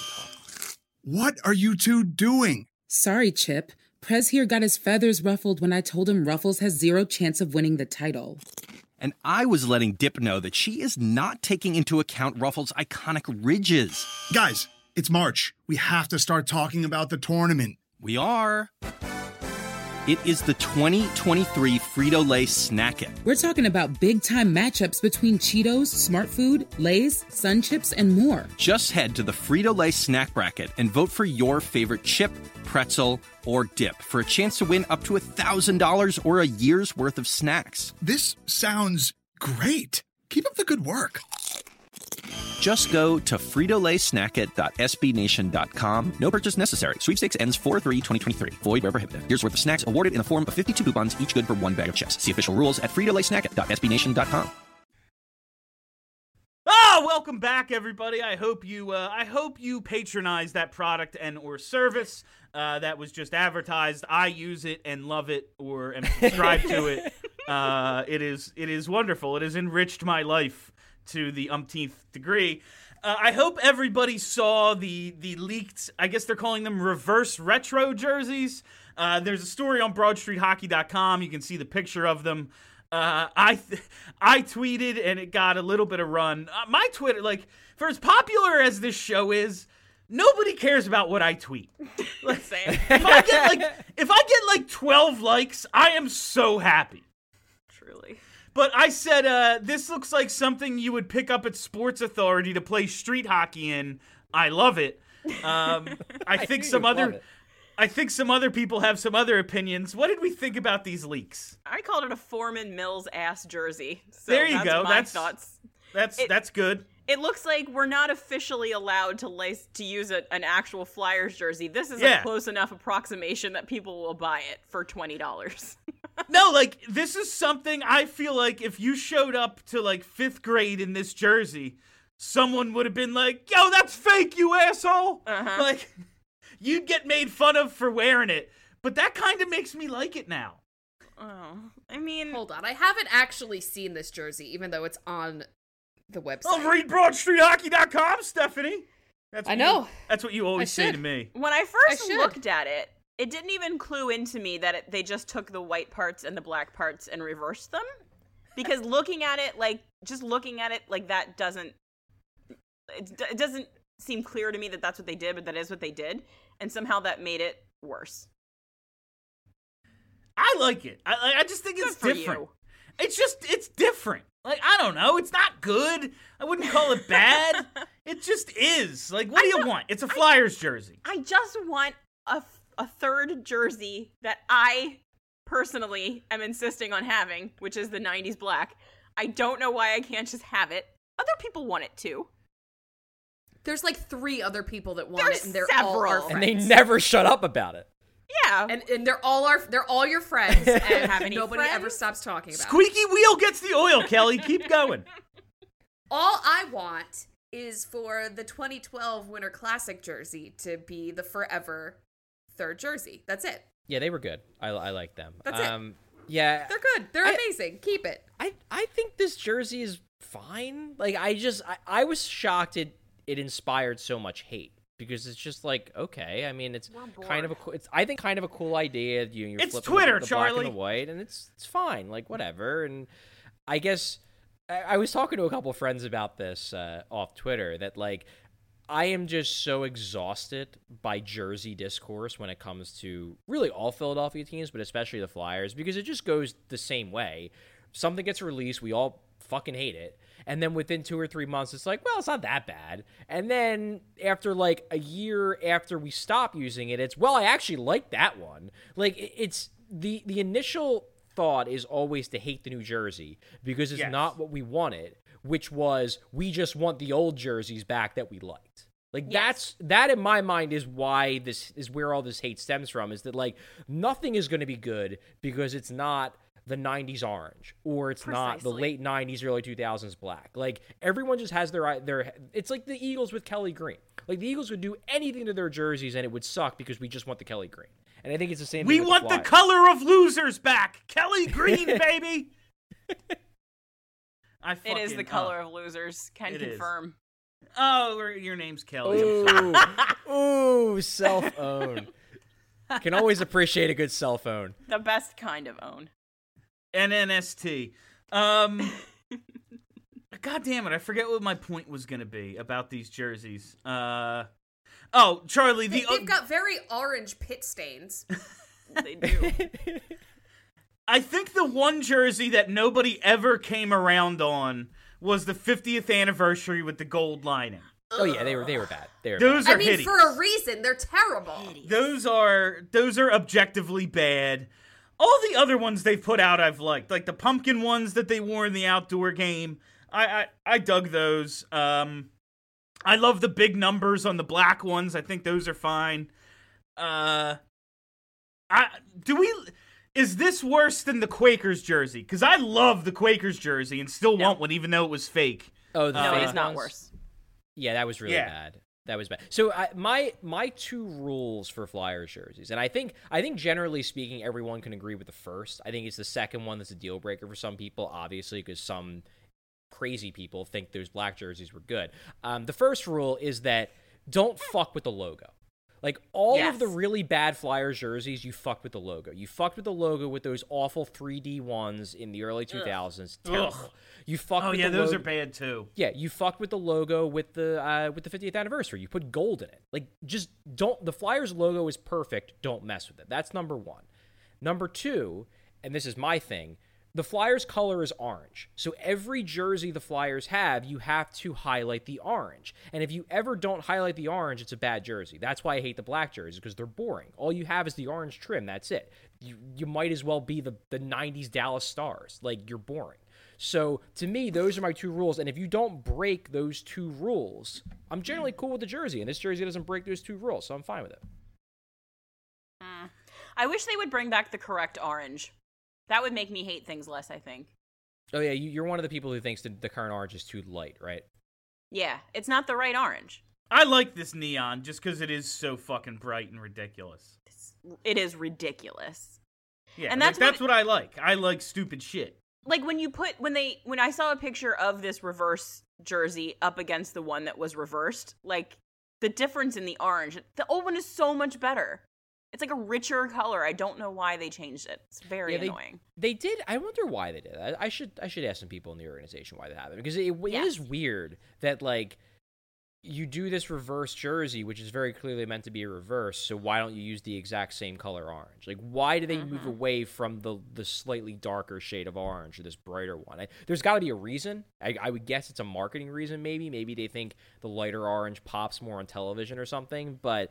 What are you two doing? Sorry, Chip. Prez here got his feathers ruffled when I told him Ruffles has zero chance of winning the title. And I was letting Dip know that she is not taking into account Ruffles' iconic ridges. Guys, it's March. We have to start talking about the tournament. We are. It is the twenty twenty-three Frito-Lay Snack It. We're talking about big-time matchups between Cheetos, Smart Food, Lay's, Sun Chips, and more. Just head to the Frito-Lay Snack Bracket and vote for your favorite chip, pretzel, or dip for a chance to win up to one thousand dollars or a year's worth of snacks. This sounds great. Keep up the good work. Just go to frito lay snack it dot s b nation dot com. No purchase necessary. Sweepstakes ends four three twenty twenty-three. Void where prohibited. Year's worth of snacks awarded in the form of fifty-two coupons, each good for one bag of chips. See official rules at frito lay snack it dot s b nation dot com. Ah, welcome back, everybody. I hope you, uh, I hope you patronize that product and or service uh, that was just advertised. I use it and love it, or am subscribed to it. Uh, it is, it is wonderful. It has enriched my life to the umpteenth degree. Uh, I hope everybody saw the the leaked, I guess they're calling them reverse retro jerseys. Uh, there's a story on broad street hockey dot com. You can see the picture of them. Uh, I th- I tweeted and it got a little bit of run. Uh, my Twitter, like, for as popular as this show is, nobody cares about what I tweet. Like, Same. if I get like if I get like twelve likes, I am so happy. Truly. But I said, uh, this looks like something you would pick up at Sports Authority to play street hockey in. I love it. Um, I think I some love other, it. I think some other people have some other opinions. What did we think about these leaks? I called it a Foreman Mills ass jersey. So There you that's go. My That's- thoughts. That's It- that's good. It looks like we're not officially allowed to lace to use a, an actual Flyers jersey. This is Yeah. a close enough approximation that people will buy it for twenty dollars. No, like, this is something I feel like if you showed up to, like, fifth grade in this jersey, someone would have been like, yo, that's fake, you asshole! Uh-huh. Like, you'd get made fun of for wearing it. But that kind of makes me like it now. Oh, I mean, Hold on, I haven't actually seen this jersey, even though it's on the website. Oh, read broad street hockey dot com, Stephanie. That's I what know. You, that's what you always I say should. to me. when I I first should. looked at it, it didn't even clue into me that it, they just took the white parts and the black parts and reversed them. Because looking at it, like, just looking at it, like, that doesn't, it, it doesn't seem clear to me that that's what they did, but that is what they did. And somehow that made it worse. I like it. I, I just think Good it's for different. you. It's just, it's different. Like, I don't know. It's not good. I wouldn't call it bad. It just is. Like, what do you want? It's a Flyers jersey. I just want a, a third jersey that I personally am insisting on having, which is the nineties black. I don't know why I can't just have it. Other people want it too. There's like three other people that want There's it, and they're all several. our And And friends. they never shut up about it. Yeah. and and they're all our they're all your friends, and Have any nobody friends? ever stops talking about it. Squeaky wheel gets the oil, Kelly. Keep going. All I want is for the twenty twelve Winter Classic jersey to be the forever third jersey. That's it. Yeah, they were good. I, I like them. That's it. um, Yeah, They're good. They're I- amazing. Keep it. I, I think this jersey is fine. Like, I just, I, I was shocked it, it inspired so much hate. Because it's just like, okay, I mean, it's kind of a, co- it's I think kind of a cool idea. You, you're It's flipping Twitter, the, the black Charlie. and the white, and it's it's fine, like whatever. And I guess I, I was talking to a couple friends about this uh, off Twitter that like I am just so exhausted by jersey discourse when it comes to really all Philadelphia teams, but especially the Flyers, because it just goes the same way. Something gets released, we all fucking hate it. And then within two or three months, it's like, well, it's not that bad. And then after like a year after we stop using it, it's, well, I actually like that one. Like it- it's the, the initial thought is always to hate the new jersey because it's Yes. not what we wanted, which was we just want the old jerseys back that we liked. Like that's that in my mind is why this is where all this hate stems from, is that like nothing is going to be good because it's not the nineties orange or it's not the Precisely. late nineties early two thousands black. Like everyone just has their their it's like the Eagles with Kelly Green. Like the Eagles would do anything to their jerseys and it would suck because we just want the Kelly Green. And I think it's the same We thing with want the Flyers. color of losers back. Kelly Green, baby. I It fucking, is the color of losers. Can It is. confirm. Oh, oh, your name's Kelly. Ooh, ooh, cell phone. Can always appreciate a good cell phone. The best kind of own. N N S T. Um, God damn it, I forget what my point was going to be about these jerseys. Uh, oh, Charlie, They, the they've got very orange pit stains. They do. I think the one jersey that nobody ever came around on was the fiftieth anniversary with the gold lining. Oh yeah, they were they were bad. They were Those bad. are I mean, hideous. for a reason. They're terrible. Those are those are objectively bad. All the other ones they've put out I've liked. Like the pumpkin ones that they wore in the outdoor game. I I, I dug those. Um I love the big numbers on the black ones. I think those are fine. Uh I do we Is this worse than the Quakers jersey? Because I love the Quakers jersey and still No. want one even though it was fake. Oh, the No, fake it's not ones? worse. Yeah, that was really Yeah. bad. That was bad. So I, my my two rules for Flyers jerseys, and I think I think generally speaking, everyone can agree with the first. I think it's the second one that's a deal breaker for some people, obviously, because some crazy people think those black jerseys were good. Um, the first rule is that don't fuck with the logo. Like, all Yes. of the really bad Flyers jerseys, you fucked with the logo. You fucked with the logo with those awful three D ones in the early two thousands. Terrible. Ugh. You fucked Oh with yeah, the those logo. are bad too. Yeah, you fucked with the logo with the uh, with the fiftieth anniversary. You put gold in it. Like, just don't. The Flyers logo is perfect. Don't mess with it. That's number one. Number two, and this is my thing. The Flyers color is orange. So every jersey the Flyers have, you have to highlight the orange. And if you ever don't highlight the orange, it's a bad jersey. That's why I hate the black jerseys, because they're boring. All you have is the orange trim. That's it. You you might as well be the, the nineties Dallas Stars. Like, you're boring. So to me, those are my two rules. And if you don't break those two rules, I'm generally cool with the jersey. And this jersey doesn't break those two rules, so I'm fine with it. Mm. I wish they would bring back the correct orange. That would make me hate things less, I think. Oh, yeah, you, you're one of the people who thinks that the current orange is too light, right? Yeah, it's not the right orange. I like this neon just because it is so fucking bright and ridiculous. It's, it is ridiculous. Yeah, And like, that's that's what- what I like. I like stupid shit. Like when you put when they when I saw a picture of this reverse jersey up against the one that was reversed, like the difference in the orange, the old one is so much better. It's like a richer color. I don't know why they changed it. It's very Yeah, they, annoying. They did. I wonder why they did that. I should I should ask some people in the organization why they have it, because it, it Yes. is weird that, like, you do this reverse jersey, which is very clearly meant to be a reverse. So why don't you use the exact same color orange? Like, why do they Mm-hmm. move away from the the slightly darker shade of orange to this brighter one? I, there's got to be a reason. I, I would guess it's a marketing reason. Maybe maybe they think the lighter orange pops more on television or something. But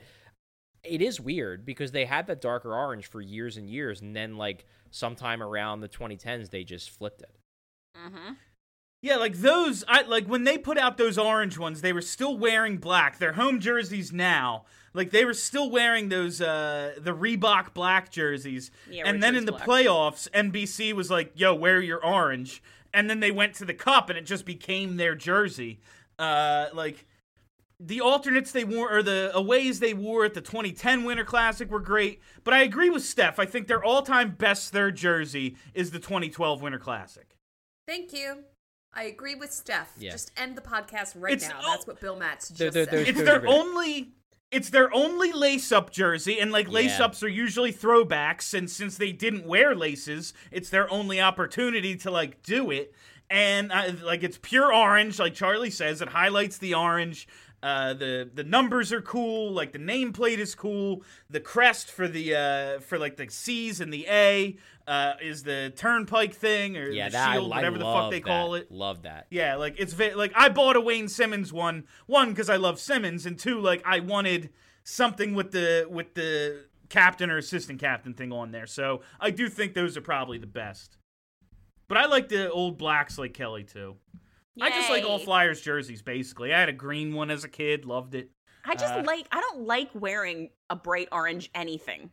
it is weird because they had that darker orange for years and years, and then, like, sometime around the twenty tens, they just flipped it. Mm-hmm. Yeah, like those, I like when they put out those orange ones, they were still wearing black. Their home jerseys now, like they were still wearing those, uh, the Reebok black jerseys. Yeah, and then Richards in the black. playoffs, N B C was like, yo, wear your orange. And then they went to the cup and it just became their jersey. Uh, like, the alternates they wore, or the aways they wore at the twenty ten Winter Classic were great. But I agree with Steph. I think their all-time best third jersey is the twenty twelve Winter Classic. Thank you. I agree with Steph. Yeah. Just end the podcast right It's- now. oh. That's what Bill Matz just They're- they're- said. they're- It's Those their are great. only it's their only lace-up jersey, and like Yeah. lace-ups are usually throwbacks, and since they didn't wear laces, it's their only opportunity to like do it. And uh, like it's pure orange, like Charlie says, it highlights the orange. Uh, the the numbers are cool, like the nameplate is cool. The crest for the uh, for like the C's and the A uh, is the turnpike thing or Yeah, the that shield, I, whatever I the love fuck they that. call it. Love that. Yeah, like it's ve- like I bought a Wayne Simmons one, one because I love Simmons, and two, like I wanted something with the with the captain or assistant captain thing on there. So I do think those are probably the best. But I like the old blacks like Kelly too. I just like all Yay. Flyers jerseys basically. I had a green one as a kid, loved it. I just Uh, like I don't like wearing a bright orange anything.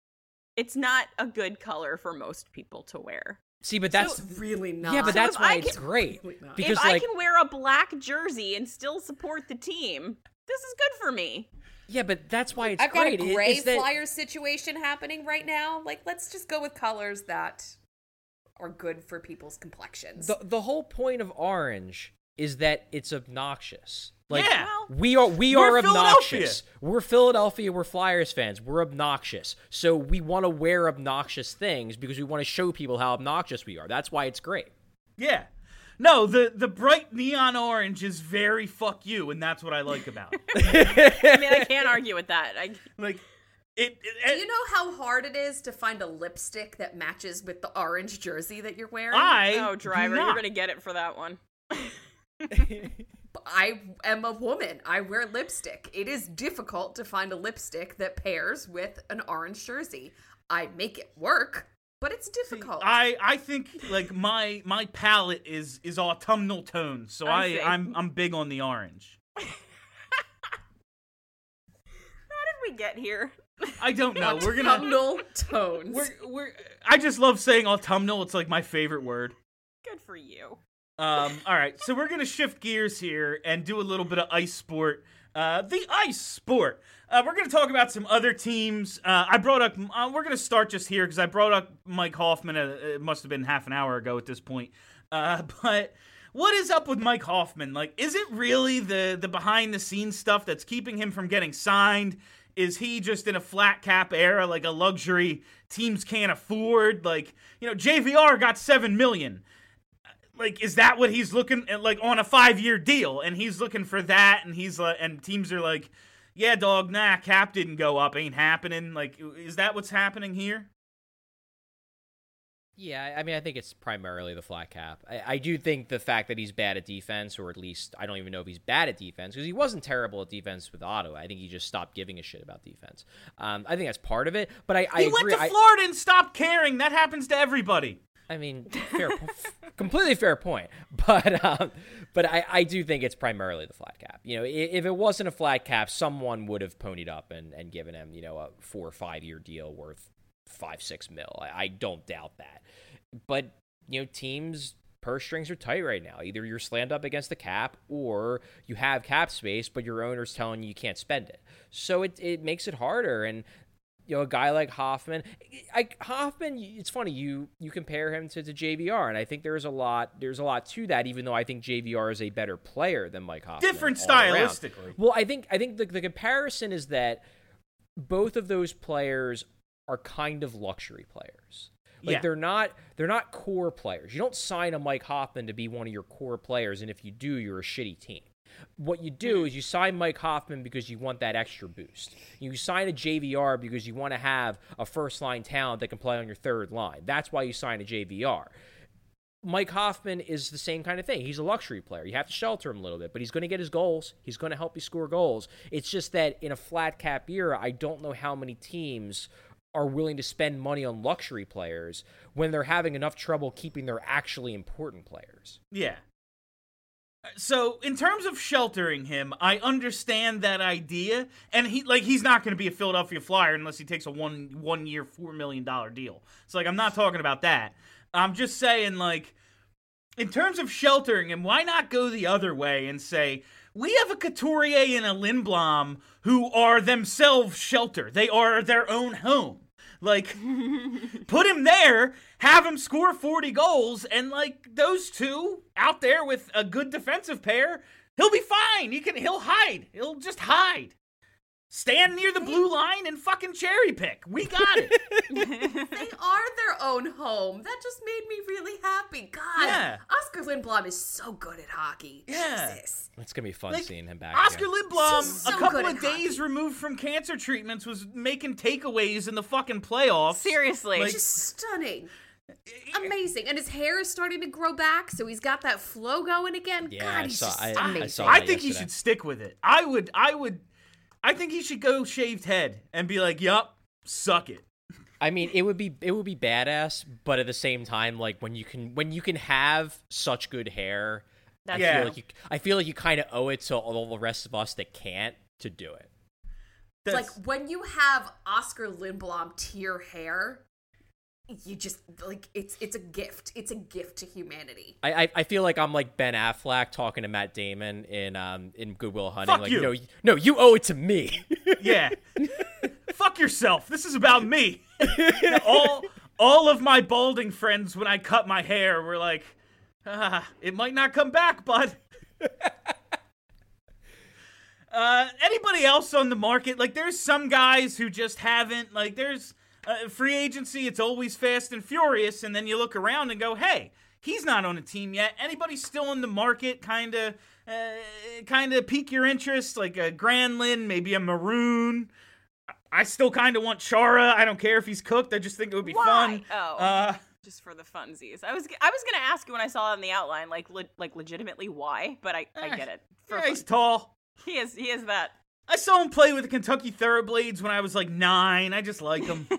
It's not a good color for most people to wear. See, but that's really not. yeah, but So that's if why I it's can- great Really not. because if like I can wear a black jersey and still support the team, this is good for me. yeah, but that's why it's I've got great. a It- gray it's that- Flyers situation happening right now. Like, let's just go with colors that are good for people's complexions. the the whole point of orange is that it's obnoxious. Like Yeah. we are we We're are Philadelphia. obnoxious. We're Philadelphia, we're Flyers fans. We're obnoxious. So we want to wear obnoxious things because we want to show people how obnoxious we are. That's why it's great. Yeah. No, the the bright neon orange is very fuck you, and that's what I like about it. I mean, I can't argue with that. I, Like, It, it, Do you know how hard it is to find a lipstick that matches with the orange jersey that you're wearing? I Oh, driver, do you're not. gonna get it for that one. I am a woman. I wear lipstick. It is difficult to find a lipstick that pairs with an orange jersey. I make it work, but it's difficult. I, I think like my my palette is is autumnal tones, so I I, see. I'm I'm big on the orange. How did we get here? I don't know. We're gonna Autumnal tones. we're we're. I just love saying autumnal. It's like my favorite word. Good for you. Um, all right, so we're gonna shift gears here and do a little bit of ice sport. Uh, the ice sport. Uh, we're gonna talk about some other teams. Uh, I brought up. Uh, we're gonna start just here because I brought up Mike Hoffman. Uh, it must have been half an hour ago at this point. Uh, but what is up with Mike Hoffman? Like, is it really the the behind the scenes stuff that's keeping him from getting signed? Is he just in a flat cap era, like a luxury teams can't afford? Like, you know, J V R got seven million. Like, is that what he's looking at, like, on a five-year deal? And he's looking for that, and he's like, and teams are like, yeah, dog, nah, cap didn't go up, ain't happening. Like, is that what's happening here? Yeah, I mean, I think it's primarily the flat cap. I, I do think the fact that he's bad at defense, or at least I don't even know if he's bad at defense, because he wasn't terrible at defense with Ottawa. I think he just stopped giving a shit about defense. Um, I think that's part of it. But I, I he agree. went to I, Florida and stopped caring. That happens to everybody. I mean, fair, po- completely fair point. But um, but I, I do think it's primarily the flat cap. You know, if, if it wasn't a flat cap, someone would have ponied up and, and given him, you know, a four or five year deal worth five, six mil. I, I don't doubt that. But, you know, teams' purse strings are tight right now. Either you're slammed up against the cap or you have cap space, but your owner's telling you you can't spend it. So it, it makes it harder. And, you know, a guy like Hoffman, I, Hoffman, it's funny, you you compare him to, to J V R, and I think there's a lot there's a lot to that, even though I think J V R is a better player than Mike Hoffman. Different all around. stylistically. Well, I think I think the, the comparison is that both of those players are kind of luxury players. Like Yeah. they're not they're not core players. You don't sign a Mike Hoffman to be one of your core players, and if you do, you're a shitty team. What you do is you sign Mike Hoffman because you want that extra boost. You sign a J V R because you want to have a first-line talent that can play on your third line. That's why you sign a J V R. Mike Hoffman is the same kind of thing. He's a luxury player. You have to shelter him a little bit, but he's going to get his goals. He's going to help you score goals. It's just that in a flat cap era, I don't know how many teams are willing to spend money on luxury players when they're having enough trouble keeping their actually important players. Yeah. So, in terms of sheltering him, I understand that idea, and he like he's not going to be a Philadelphia Flyer unless he takes a one one year four million dollar deal. So, like, I'm not talking about that. I'm just saying, like, in terms of sheltering him, why not go the other way and say we have a Couturier and a Lindblom who are themselves shelter. They are their own home. Like, put him there, have him score forty goals, and, like, those two out there with a good defensive pair, he'll be fine. He can, he'll hide. He'll just hide. Stand near the blue line and fucking cherry pick. We got it. They are their own home. That just made me really happy. God, Yeah. Oscar Lindblom is so good at hockey. Yeah. Jesus. It's going to be fun Like, seeing him back Oscar again. Lindblom, He's so a couple good of at days hockey. removed from cancer treatments, was making takeaways in the fucking playoffs. Seriously. Like, Just stunning. Amazing. And his hair is starting to grow back, so he's got that flow going again. Yeah, God, I he's saw- just I- I amazing. saw I that think he yesterday. should stick with it. I would, I would, I think he should go shaved head and be like, yup, suck it. I mean, it would be it would be badass, but at the same time, like when you can when you can have such good hair, I That's Yeah. feel like you I feel like you kind of owe it to all the rest of us that can't to do it. It's like That's- when you have Oscar Lindblom tier hair, you just like it's it's a gift. It's a gift to humanity. I, I I feel like I'm like Ben Affleck talking to Matt Damon in um in Good Will Hunting. Fuck like you. no no you owe it to me. Yeah. Fuck yourself. This is about me. all all of my balding friends, when I cut my hair, were like, ah, it might not come back, bud. uh, anybody else on the market? Like, there's some guys who just haven't, like, there's uh, free agency, it's always fast and furious, and then you look around and go, hey, he's not on a team yet. Anybody still in the market kind of uh, kind of pique your interest, like a Granlund, maybe a Maroon? I still kind of want Chara. I don't care if he's cooked. I just think it would be Why? fun. Oh, Uh, just for the funsies. I was I was gonna ask you when I saw it in the outline, like le- like legitimately why, but I, I get it. For yeah, fun. he's tall. He is he is that. I saw him play with the Kentucky Thoroughblades when I was like nine. I just like him.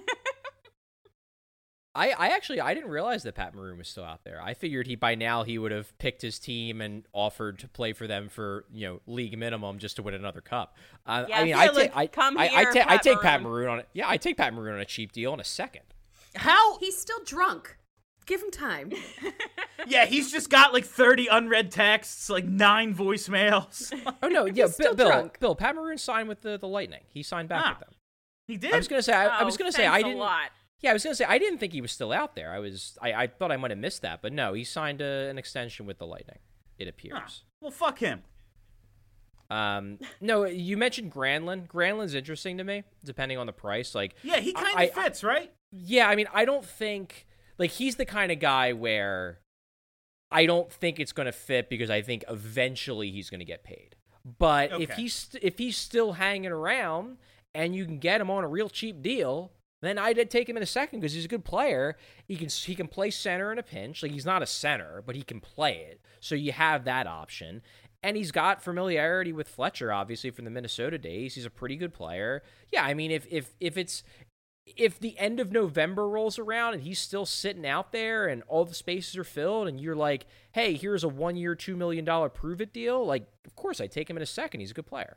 I, I actually I didn't realize that Pat Maroon was still out there. I figured he by now he would have picked his team and offered to play for them for, you know, league minimum just to win another cup. Uh, Yeah, I mean, I I feel take like, I, come I, I, here, ta- I Pat take Pat Maroon. Maroon on it. Yeah, I take Pat Maroon on a cheap deal in a second. How? He's still drunk. Give him time. Yeah, he's just got like thirty unread texts, like nine voicemails. Oh no, yeah, He's still Bill, Bill, drunk. Bill, Pat Maroon signed with the, the Lightning. He signed back Ah, with them. He did? I was gonna say I, I was Oh, gonna say I thanks a didn't. lot. Yeah, I was gonna say I didn't think he was still out there. I was I, I thought I might have missed that, but no, he signed a, an extension with the Lightning. It Ah, appears. well, fuck him. Um, no, you mentioned Granlund. Granlund's interesting to me, depending on the price. Like, Yeah, he kind I- of I- fits, right? yeah, I mean, I don't think like he's the kind of guy where I don't think it's going to fit because I think eventually he's going to get paid. But if Okay. he's if he's still hanging around and you can get him on a real cheap deal, then I'd take him in a second because he's a good player. He can he can play center in a pinch. Like he's not a center, but he can play it. So you have that option. And he's got familiarity with Fletcher, obviously, from the Minnesota days. He's a pretty good player. Yeah, I mean, if if if it's if the end of November rolls around and he's still sitting out there and all the spaces are filled and you're like, hey, here's a one-year, two million dollars prove-it deal, like, of course, I'd take him in a second. He's a good player.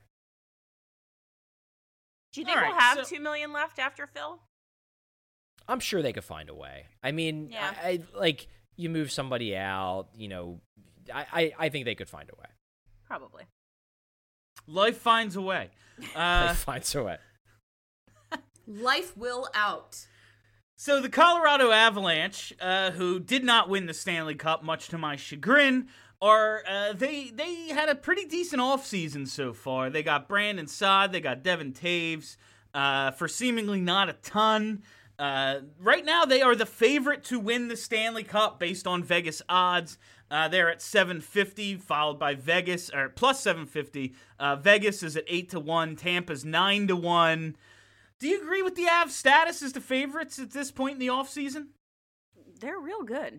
Do you think All we'll right, have so- two million left after Phil? I'm sure they could find a way. I mean, Yeah. I, I like, you move somebody out, you know, I, I, I think they could find a way. Probably. Life finds a way. Uh, They find a way. Life will out. So the Colorado Avalanche, uh, who did not win the Stanley Cup, much to my chagrin, are uh, they they had a pretty decent offseason so far. They got Brandon Saad, they got Devin Taves uh, for seemingly not a ton. Uh, right now, they are the favorite to win the Stanley Cup based on Vegas odds. Uh, they're at seven fifty, followed by Vegas, or plus seven fifty. Uh, Vegas is at eight to one. Tampa's nine to one. Do you agree with the Avs' status as the favorites at this point in the offseason? They're real good.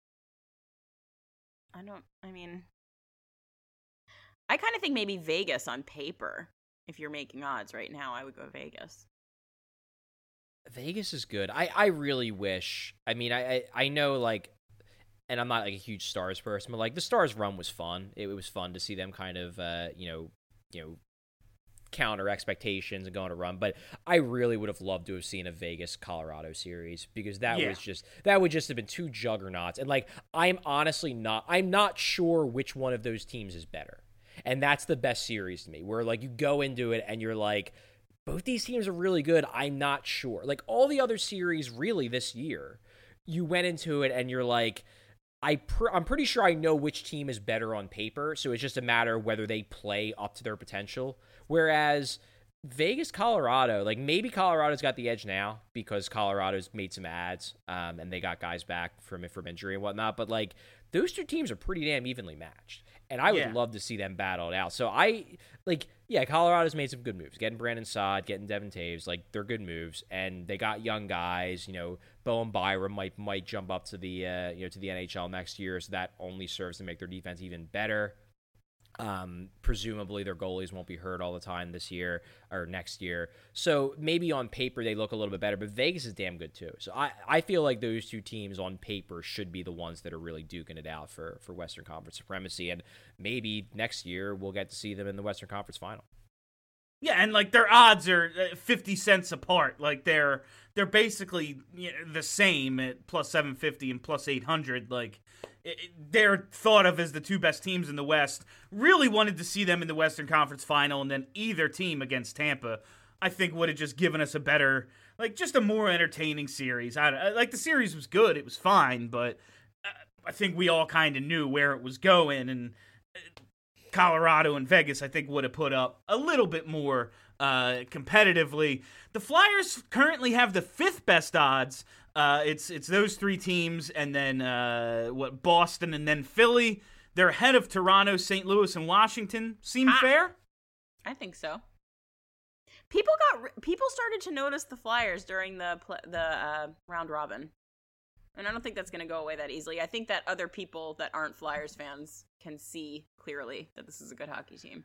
I don't, I mean, I kind of think maybe Vegas on paper. If you're making odds right now, I would go Vegas. Vegas is good. I, I really wish. I mean, I, I, I know, like, and I'm not like a huge Stars person, but like the Stars run was fun. It, it was fun to see them kind of, uh, you know, you know, counter expectations and go on a run. But I really would have loved to have seen a Vegas Colorado series because that Yeah. was just that would just have been two juggernauts. And like, I'm honestly not. I'm not sure which one of those teams is better. And that's the best series to me, where like you go into it and you're like, both these teams are really good. I'm not sure. Like all the other series really this year, you went into it and you're like, I pr- I'm pretty sure I know which team is better on paper. So it's just a matter of whether they play up to their potential. Whereas Vegas, Colorado, like maybe Colorado's got the edge now because Colorado's made some ads um, and they got guys back from from injury and whatnot. But like those two teams are pretty damn evenly matched. And I would Yeah. love to see them battle it out. So I, like, yeah, Colorado's made some good moves. Getting Brandon Saad, getting Devin Taves, like, they're good moves. And they got young guys, you know, Bowen Byram might might jump up to the, uh, you know, to the N H L next year. So that only serves to make their defense even better. Um, presumably their goalies won't be hurt all the time this year or next year. So maybe on paper they look a little bit better, but Vegas is damn good too. So I, I feel like those two teams on paper should be the ones that are really duking it out for, for Western Conference supremacy. And maybe next year we'll get to see them in the Western Conference final. Yeah, and like their odds are uh, fifty cents apart. Like they're they're basically you know, the same at plus seven fifty and plus eight hundred. Like it, it- they're thought of as the two best teams in the West. Really wanted to see them in the Western Conference final, and then either team against Tampa, I think would have just given us a better, like just a more entertaining series. I, I like the series was good, it was fine, but uh, I think we all kind of knew where it was going, and Colorado and Vegas, I think, would have put up a little bit more uh, competitively. The Flyers currently have the fifth best odds. Uh, it's it's those three teams, and then uh, what Boston, and then Philly. They're ahead of Toronto, Saint Louis, and Washington. Seem Ah. fair? I think so. People got people started to notice the Flyers during the pl- the uh, round robin, and I don't think that's going to go away that easily. I think that other people that aren't Flyers fans can see clearly that this is a good hockey team.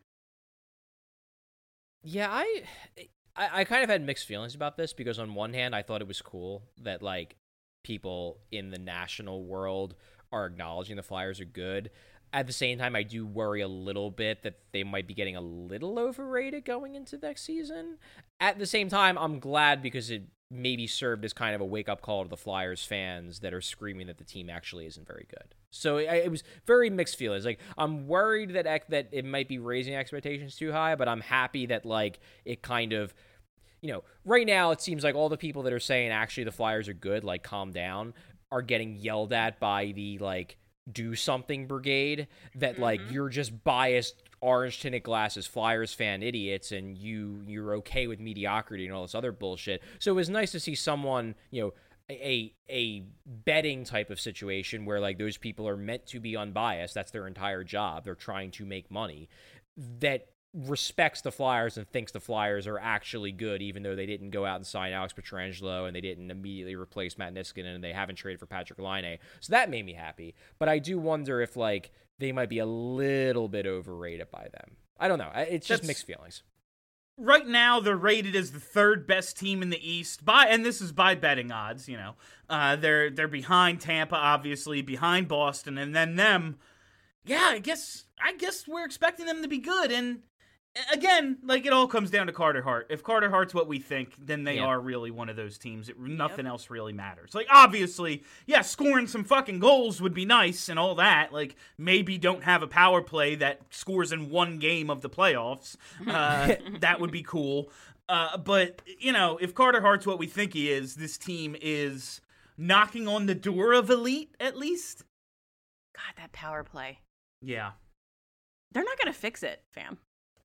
Yeah, I, I I kind of had mixed feelings about this because on one hand, I thought it was cool that like people in the national world are acknowledging the Flyers are good. At the same time, I do worry a little bit that they might be getting a little overrated going into next season. At the same time, I'm glad because it maybe served as kind of a wake-up call to the Flyers fans that are screaming that the team actually isn't very good. So it, it was very mixed feelings. Like, I'm worried that that it might be raising expectations too high, but I'm happy that, like, it kind of, you know, right now it seems like all the people that are saying actually the Flyers are good, like, calm down, are getting yelled at by the, like, do something brigade that mm-hmm. like you're just biased orange tinted glasses Flyers fan idiots and you you're okay with mediocrity and all this other bullshit. So it was nice to see someone, you know, a a betting type of situation where like those people are meant to be unbiased. That's their entire job. They're trying to make money. That respects the Flyers and thinks the Flyers are actually good, even though they didn't go out and sign Alex Pietrangelo and they didn't immediately replace Matt Niskanen and they haven't traded for Patrick Laine. So that made me happy. But I do wonder if like they might be a little bit overrated by them. I don't know. It's just That's, mixed feelings. Right now, they're rated as the third best team in the East by, and this is by betting odds. You know, uh, they're they're behind Tampa, obviously, behind Boston, and then them. Yeah, I guess I guess we're expecting them to be good, and. Again, like, it all comes down to Carter Hart. If Carter Hart's what we think, then they yeah. are really one of those teams. It, nothing yep. else really matters. Like, obviously, yeah, scoring some fucking goals would be nice and all that. Like, maybe don't have a power play that scores in one game of the playoffs. Uh, that would be cool. Uh, but, you know, if Carter Hart's what we think he is, this team is knocking on the door of elite, at least. God, that power play. Yeah. They're not going to fix it, fam.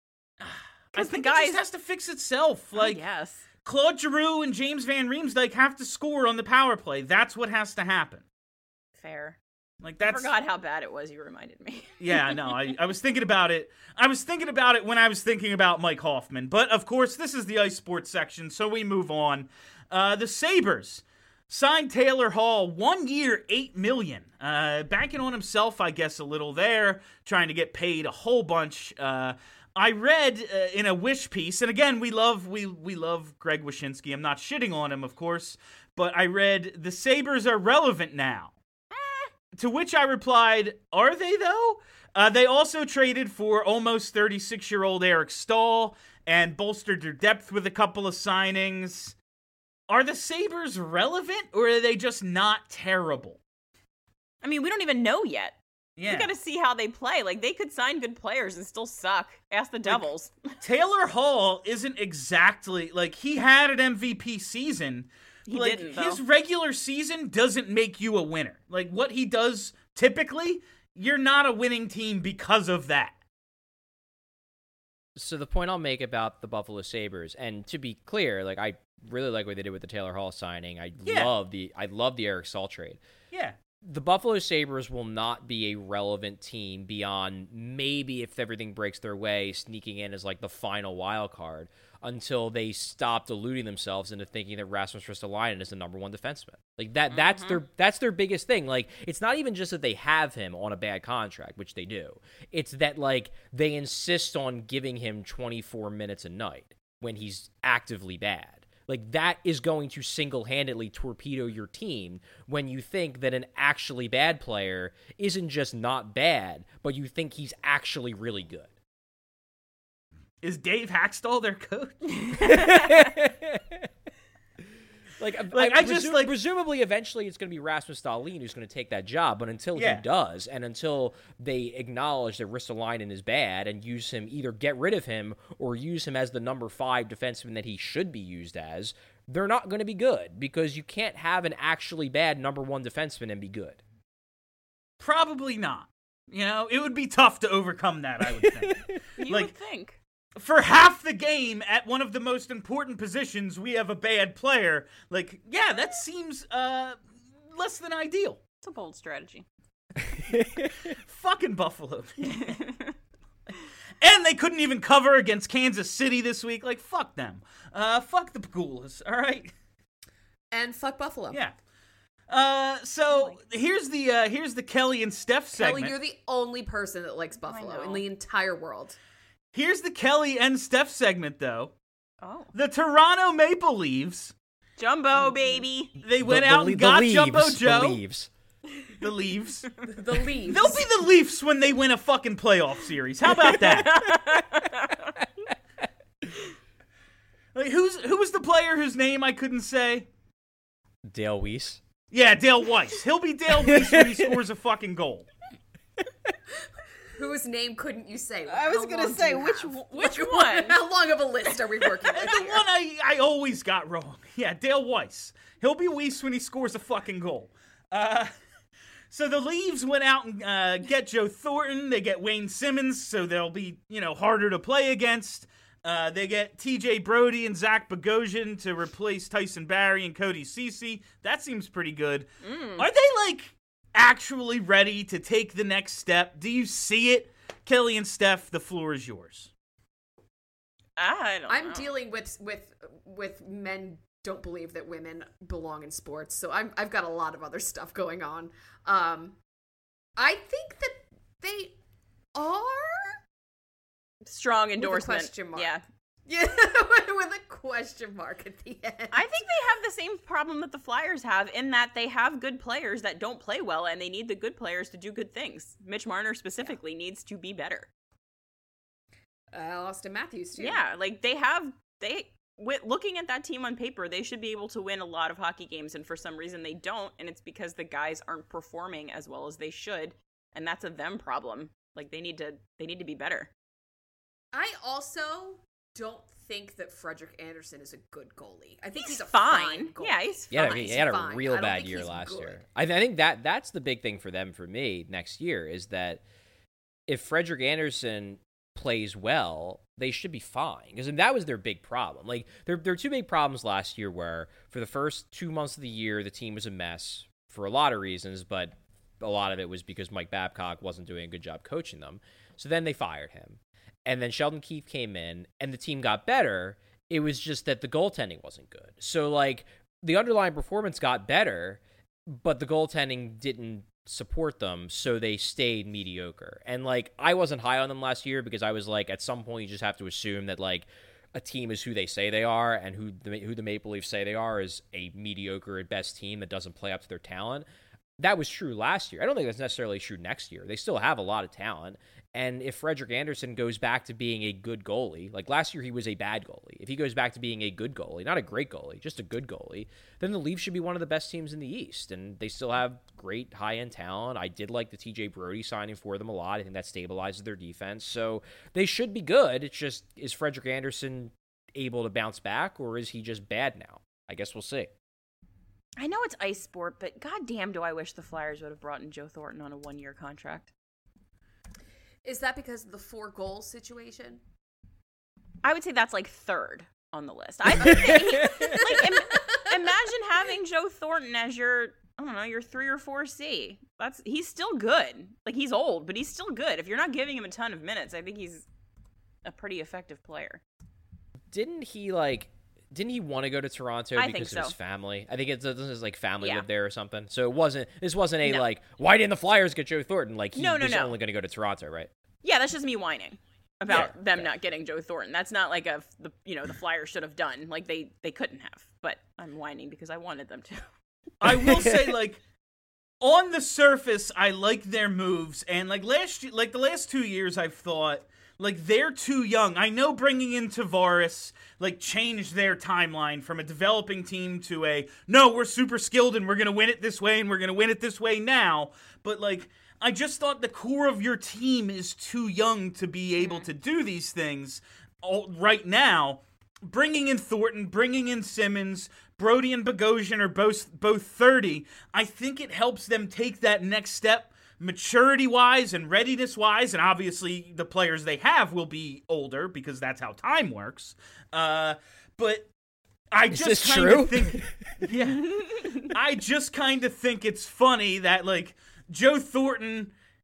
I think the guys, it just has to fix itself. Like, yes. Claude Giroux and James Van Riemsdyk have to score on the power play. That's what has to happen. Fair. Like that's. I forgot how bad it was. You reminded me. yeah, no, I, I was thinking about it. I was thinking about it when I was thinking about Mike Hoffman. But of course, this is the Ice Sports section, so we move on. Uh, the Sabres signed Taylor Hall, one year, eight million. Uh, banking on himself, I guess, a little there, trying to get paid a whole bunch. Uh, I read uh, in a Wish piece, and again, we love we we love Greg Wyshynski. I'm not shitting on him, of course, but I read the Sabres are relevant now. To which I replied, are they though? Uh, they also traded for almost thirty-six-year-old Eric Stahl and bolstered their depth with a couple of signings. Are the Sabres relevant, or are they just not terrible? I mean, we don't even know yet. Yeah. We got to see how they play. Like, they could sign good players and still suck. Ask the Devils. Like, Taylor Hall isn't exactly, like, he had an M V P season. He like, didn't, though. His regular season doesn't make you a winner. Like, what he does typically, you're not a winning team because of that. So the point I'll make about the Buffalo Sabres, and to be clear, like, I really like what they did with the Taylor Hall signing. I yeah. love the I love the Eric Stahl trade. Yeah. The Buffalo Sabres will not be a relevant team beyond maybe, if everything breaks their way, sneaking in as like the final wild card until they stop deluding themselves into thinking that Rasmus Ristolainen is the number one defenseman. Like that, mm-hmm. that's their that's their biggest thing. Like, it's not even just that they have him on a bad contract, which they do. It's that like they insist on giving him twenty-four minutes a night when he's actively bad. Like, that is going to single-handedly torpedo your team when you think that an actually bad player isn't just not bad, but you think he's actually really good. Is Dave Hackstall their coach? Like, like I, I just presu- like presumably eventually it's going to be Rasmus Dahlin who's going to take that job, but until yeah. he does, and until they acknowledge that Ristolainen is bad and use him, either get rid of him or use him as the number five defenseman that he should be used as, they're not going to be good because you can't have an actually bad number one defenseman and be good. Probably not. You know, it would be tough to overcome that, I would think. you like, would think. For half the game, at one of the most important positions, we have a bad player. Like, yeah, that seems uh, less than ideal. It's a bold strategy. Fucking Buffalo. And they couldn't even cover against Kansas City this week. Like, fuck them. Uh, fuck the Pagulas, all right? And fuck Buffalo. Yeah. Uh, so here's the uh, here's the Kelly and Steph segment. Kelly, you're the only person that likes Buffalo in the entire world. Here's the Kelly and Steph segment, though. Oh. The Toronto Maple Leafs. Jumbo, baby. They went the, out the, and got the Jumbo leaves, Joe. The Leaves. The Leafs. The Leafs. They'll be the Leafs when they win a fucking playoff series. How about that? Like, who's who was the player whose name I couldn't say? Dale Weiss. Yeah, Dale Weiss. He'll be Dale Weiss when he scores a fucking goal. Whose name couldn't you say? I was How gonna long say, do you which have? which Like, one? How long of a list are we working with The here? one I, I always got wrong. Yeah, Dale Weiss. He'll be Weiss when he scores a fucking goal. Uh, so the Leaves went out and uh, get Joe Thornton. They get Wayne Simmons, so they'll be, you know, harder to play against. Uh, they get T J Brody and Zach Bogosian to replace Tyson Barrie and Cody Ceci. That seems pretty good. Mm. Are they, like, actually ready to take the next step? Do you see it? Kelly and Steph, the floor is yours. I don't I'm know. dealing with with with men don't believe that women belong in sports, so I'm I've got a lot of other stuff going on. Um, I think that they are Strong endorsement. With a question mark. Yeah. Yeah, with a question mark at the end. I think they have the same problem that the Flyers have in that they have good players that don't play well, and they need the good players to do good things. Mitch Marner specifically yeah. needs to be better. Uh, Austin Matthews too. Yeah, like they have they with looking at that team on paper, they should be able to win a lot of hockey games, and for some reason they don't, and it's because the guys aren't performing as well as they should, and that's a them problem. Like they need to they need to be better. I also don't think that Frederik Andersen is a good goalie. I think he's, he's a fine. fine goalie. Yeah, he's fine. Yeah, I mean, he had a fine. real bad year he's last good. year. I, th- I think that that's the big thing for them for me next year is that if Frederik Andersen plays well, they should be fine. Because that was their big problem. Like their their two big problems last year were for the first two months of the year, the team was a mess for a lot of reasons, but a lot of it was because Mike Babcock wasn't doing a good job coaching them. So then they fired him. And then Sheldon Keefe came in, and the team got better. It was just that the goaltending wasn't good. So, like, the underlying performance got better, but the goaltending didn't support them, so they stayed mediocre. And, like, I wasn't high on them last year because I was like, at some point you just have to assume that, like, a team is who they say they are, and who the, who the Maple Leafs say they are is a mediocre at best team that doesn't play up to their talent. That was true last year. I don't think that's necessarily true next year. They still have a lot of talent. And if Frederik Andersen goes back to being a good goalie, like last year he was a bad goalie. If he goes back to being a good goalie, not a great goalie, just a good goalie, then the Leafs should be one of the best teams in the East. And they still have great high-end talent. I did like the T J Brody signing for them a lot. I think that stabilizes their defense. So they should be good. It's just, is Frederik Andersen able to bounce back, or is he just bad now? I guess we'll see. I know it's ice sport, but goddamn do I wish the Flyers would have brought in Joe Thornton on a one-year contract. Is that because of the four goals situation? I would say that's like third on the list. I think that, like im- imagine having Joe Thornton as your, I don't know, your three or four C. That's he's still good. Like he's old, but he's still good. If you're not giving him a ton of minutes, I think he's a pretty effective player. Didn't he like? Didn't he want to go to Toronto I because think of so. his family? I think it's doesn't his like family Yeah. live there or something. So it wasn't. This wasn't a No. like. Why didn't the Flyers get Joe Thornton? Like he No, no, was no. only going to go to Toronto, right? Yeah, that's just me whining about Yeah, them okay. not getting Joe Thornton. That's not like a the you know the Flyers should have done. Like they they couldn't have. But I'm whining because I wanted them to. I will say, like, on the surface, I like their moves, and like last, year, like the last two years, I've thought like they're too young. I know bringing in Tavares like changed their timeline from a developing team to a no, we're super skilled and we're gonna win it this way and we're gonna win it this way now. But like, I just thought the core of your team is too young to be able to do these things all, right now. Bringing in Thornton, bringing in Simmons, Brody and Bogosian are both both thirty. I think it helps them take that next step maturity-wise and readiness-wise, and obviously the players they have will be older because that's how time works. Uh, but I Is just this kind true? of think, yeah, I just kind of think it's funny that like Joe Thornton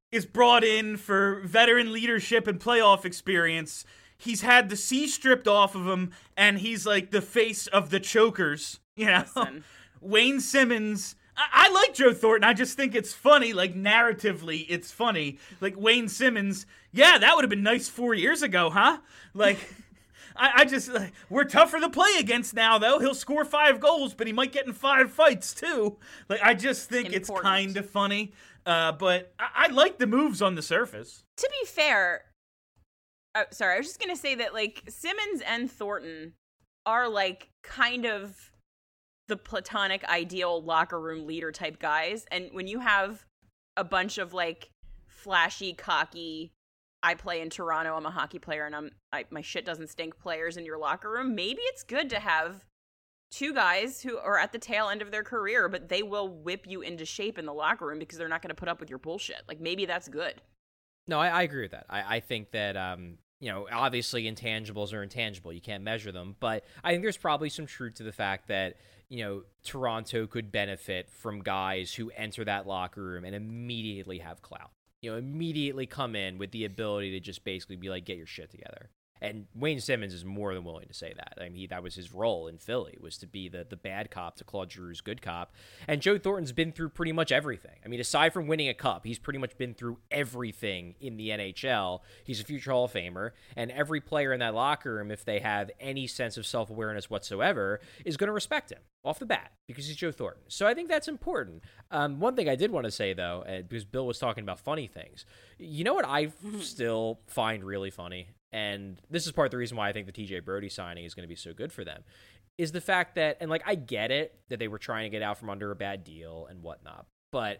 is brought in for veteran leadership and playoff experience. He's had the C stripped off of him, and he's like the face of the chokers. You know, Listen. Wayne Simmons. I-, I like Joe Thornton. I just think it's funny, like narratively, it's funny. Like Wayne Simmons. Yeah, that would have been nice four years ago, huh? Like. I, I just, uh, we're tougher to play against now, though. He'll score five goals, but he might get in five fights, too. Like, I just think Important. it's kind of funny. Uh, but I-, I like the moves on the surface. To be fair, oh, sorry, I was just going to say that, like, Simmons and Thornton are, like, kind of the platonic ideal locker room leader type guys. And when you have a bunch of, like, flashy, cocky, I play in Toronto, I'm a hockey player, and I'm I, my shit doesn't stink players in your locker room, maybe it's good to have two guys who are at the tail end of their career, but they will whip you into shape in the locker room because they're not going to put up with your bullshit. Like, maybe that's good. No, I, I agree with that. I, I think that, um, you know, obviously intangibles are intangible. You can't measure them. But I think there's probably some truth to the fact that, you know, Toronto could benefit from guys who enter that locker room and immediately have clout. You know, immediately come in with the ability to just basically be like, get your shit together. And Wayne Simmons is more than willing to say that. I mean, he, that was his role in Philly, was to be the, the bad cop to Claude Giroux's good cop. And Joe Thornton's been through pretty much everything. I mean, aside from winning a cup, he's pretty much been through everything in the N H L. He's a future Hall of Famer. And every player in that locker room, if they have any sense of self-awareness whatsoever, is going to respect him off the bat because he's Joe Thornton. So I think that's important. Um, one thing I did want to say, though, uh, because Bill was talking about funny things, you know what I still find really funny? And this is part of the reason why I think the T J Brody signing is going to be so good for them, is the fact that, and like, I get it that they were trying to get out from under a bad deal and whatnot, but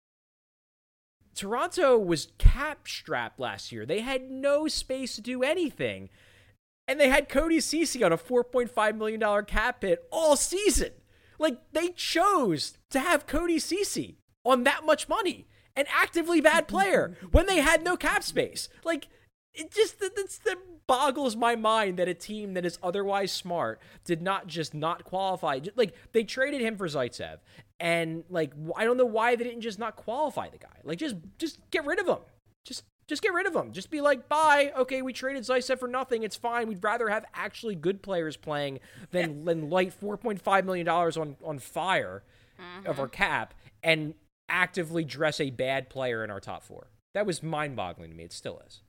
Toronto was cap strapped last year. They had no space to do anything. And they had Cody Ceci on a four point five million dollars cap hit all season. Like, they chose to have Cody Ceci on that much money, an actively bad player, when they had no cap space. Like, it just, it's, that boggles my mind that a team that is otherwise smart did not just not qualify. Like, they traded him for Zaitsev, and, like, I don't know why they didn't just not qualify the guy. Like, just, just get rid of him. Just, just get rid of him. Just be like, bye. Okay, we traded Zaitsev for nothing. It's fine. We'd rather have actually good players playing than, than light four point five million dollars on, on fire mm-hmm. of our cap and actively dress a bad player in our top four. That was mind-boggling to me. It still is.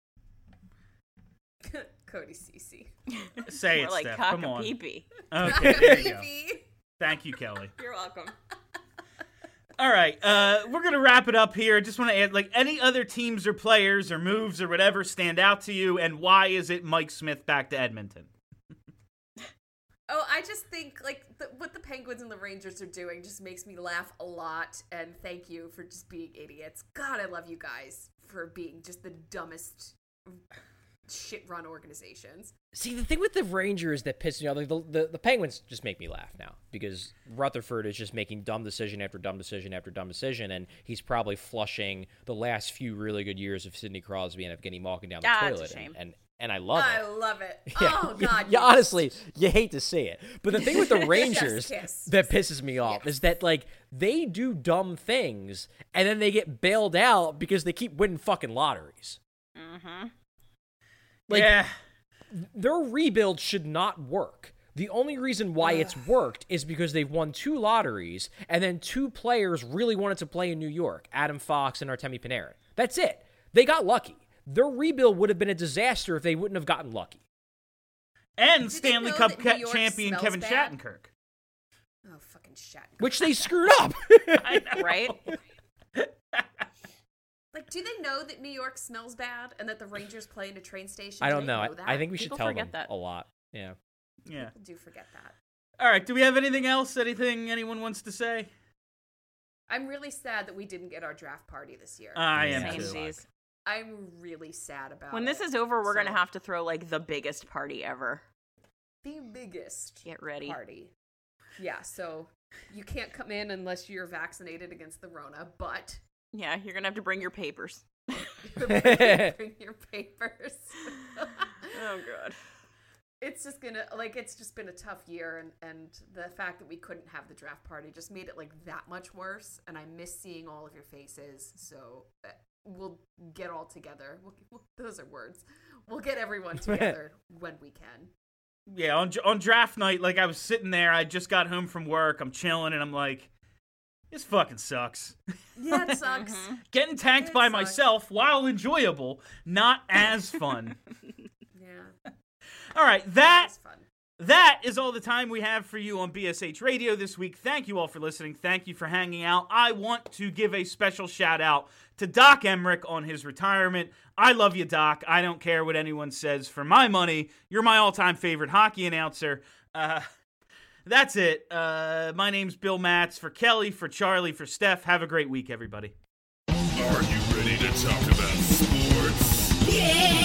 Cody Ceci. Say More it, like Steph. cock Come a on. pee-pee. Okay, there you go. Thank you, Kelly. You're welcome. All right, uh, we're going to wrap it up here. Just want to add, like, any other teams or players or moves or whatever stand out to you, and why is it Mike Smith back to Edmonton? Oh, I just think, like, the, what the Penguins and the Rangers are doing just makes me laugh a lot, and thank you for just being idiots. God, I love you guys for being just the dumbest shit-run organizations. See, the thing with the Rangers that pisses me off, like the, the, the Penguins just make me laugh now because Rutherford is just making dumb decision after dumb decision after dumb decision, and he's probably flushing the last few really good years of Sidney Crosby and Evgeny Malkin down the Ah, toilet. it's a shame. And, and and I love I it. love it. Yeah, Oh, God. You, you honestly, you hate to see it. But the thing with the Rangers kiss. that pisses me off Yes. is that, like, they do dumb things, and then they get bailed out because they keep winning fucking lotteries. Mm-hmm. Like, yeah. their rebuild should not work. The only reason why it's worked is because they've won two lotteries, and then two players really wanted to play in New York, Adam Fox and Artemi Panarin. That's it. They got lucky. Their rebuild would have been a disaster if they wouldn't have gotten lucky. And Did they Stanley know Cup that New ca- York champion smells Kevin bad? Shattenkirk. Oh, fucking Shattenkirk. Which they screwed up. I know. Right? Like, do they know that New York smells bad and that the Rangers play in a train station? I Do don't they know. I, that? I think we People should tell forget them that. a lot. Yeah. Yeah. People do forget that. All right, do we have anything else? Anything anyone wants to say? I'm really sad that we didn't get our draft party this year. I am Yeah. too. Samesies. I'm really sad about When it. this is over, we're So, gonna have to throw like the biggest party ever. the biggest Get ready. party. Yeah, so you can't come in unless you're vaccinated against the Rona, but Yeah, you're gonna have to bring your papers. bring your papers. Oh god. It's just gonna, like, it's just been a tough year, and, and the fact that we couldn't have the draft party just made it, like, that much worse, and I miss seeing all of your faces, so uh, we'll get all together. We'll, we'll, those are words. We'll get everyone together when we can. Yeah, on on draft night, like I was sitting there, I just got home from work, I'm chilling, and I'm like, this fucking sucks. Yeah, it sucks. Getting tanked it by sucks. myself, while enjoyable, not as fun. Yeah. All right, that It's fun. that is all the time we have for you on B S H Radio this week. Thank you all for listening. Thank you for hanging out. I want to give a special shout out to Doc Emmerich on his retirement. I love you, Doc. I don't care what anyone says. For my money, you're my all-time favorite hockey announcer. Uh, that's it. Uh, my name's Bill Matz. For Kelly, for Charlie, for Steph, have a great week, everybody. Are you ready to talk about sports? Yeah!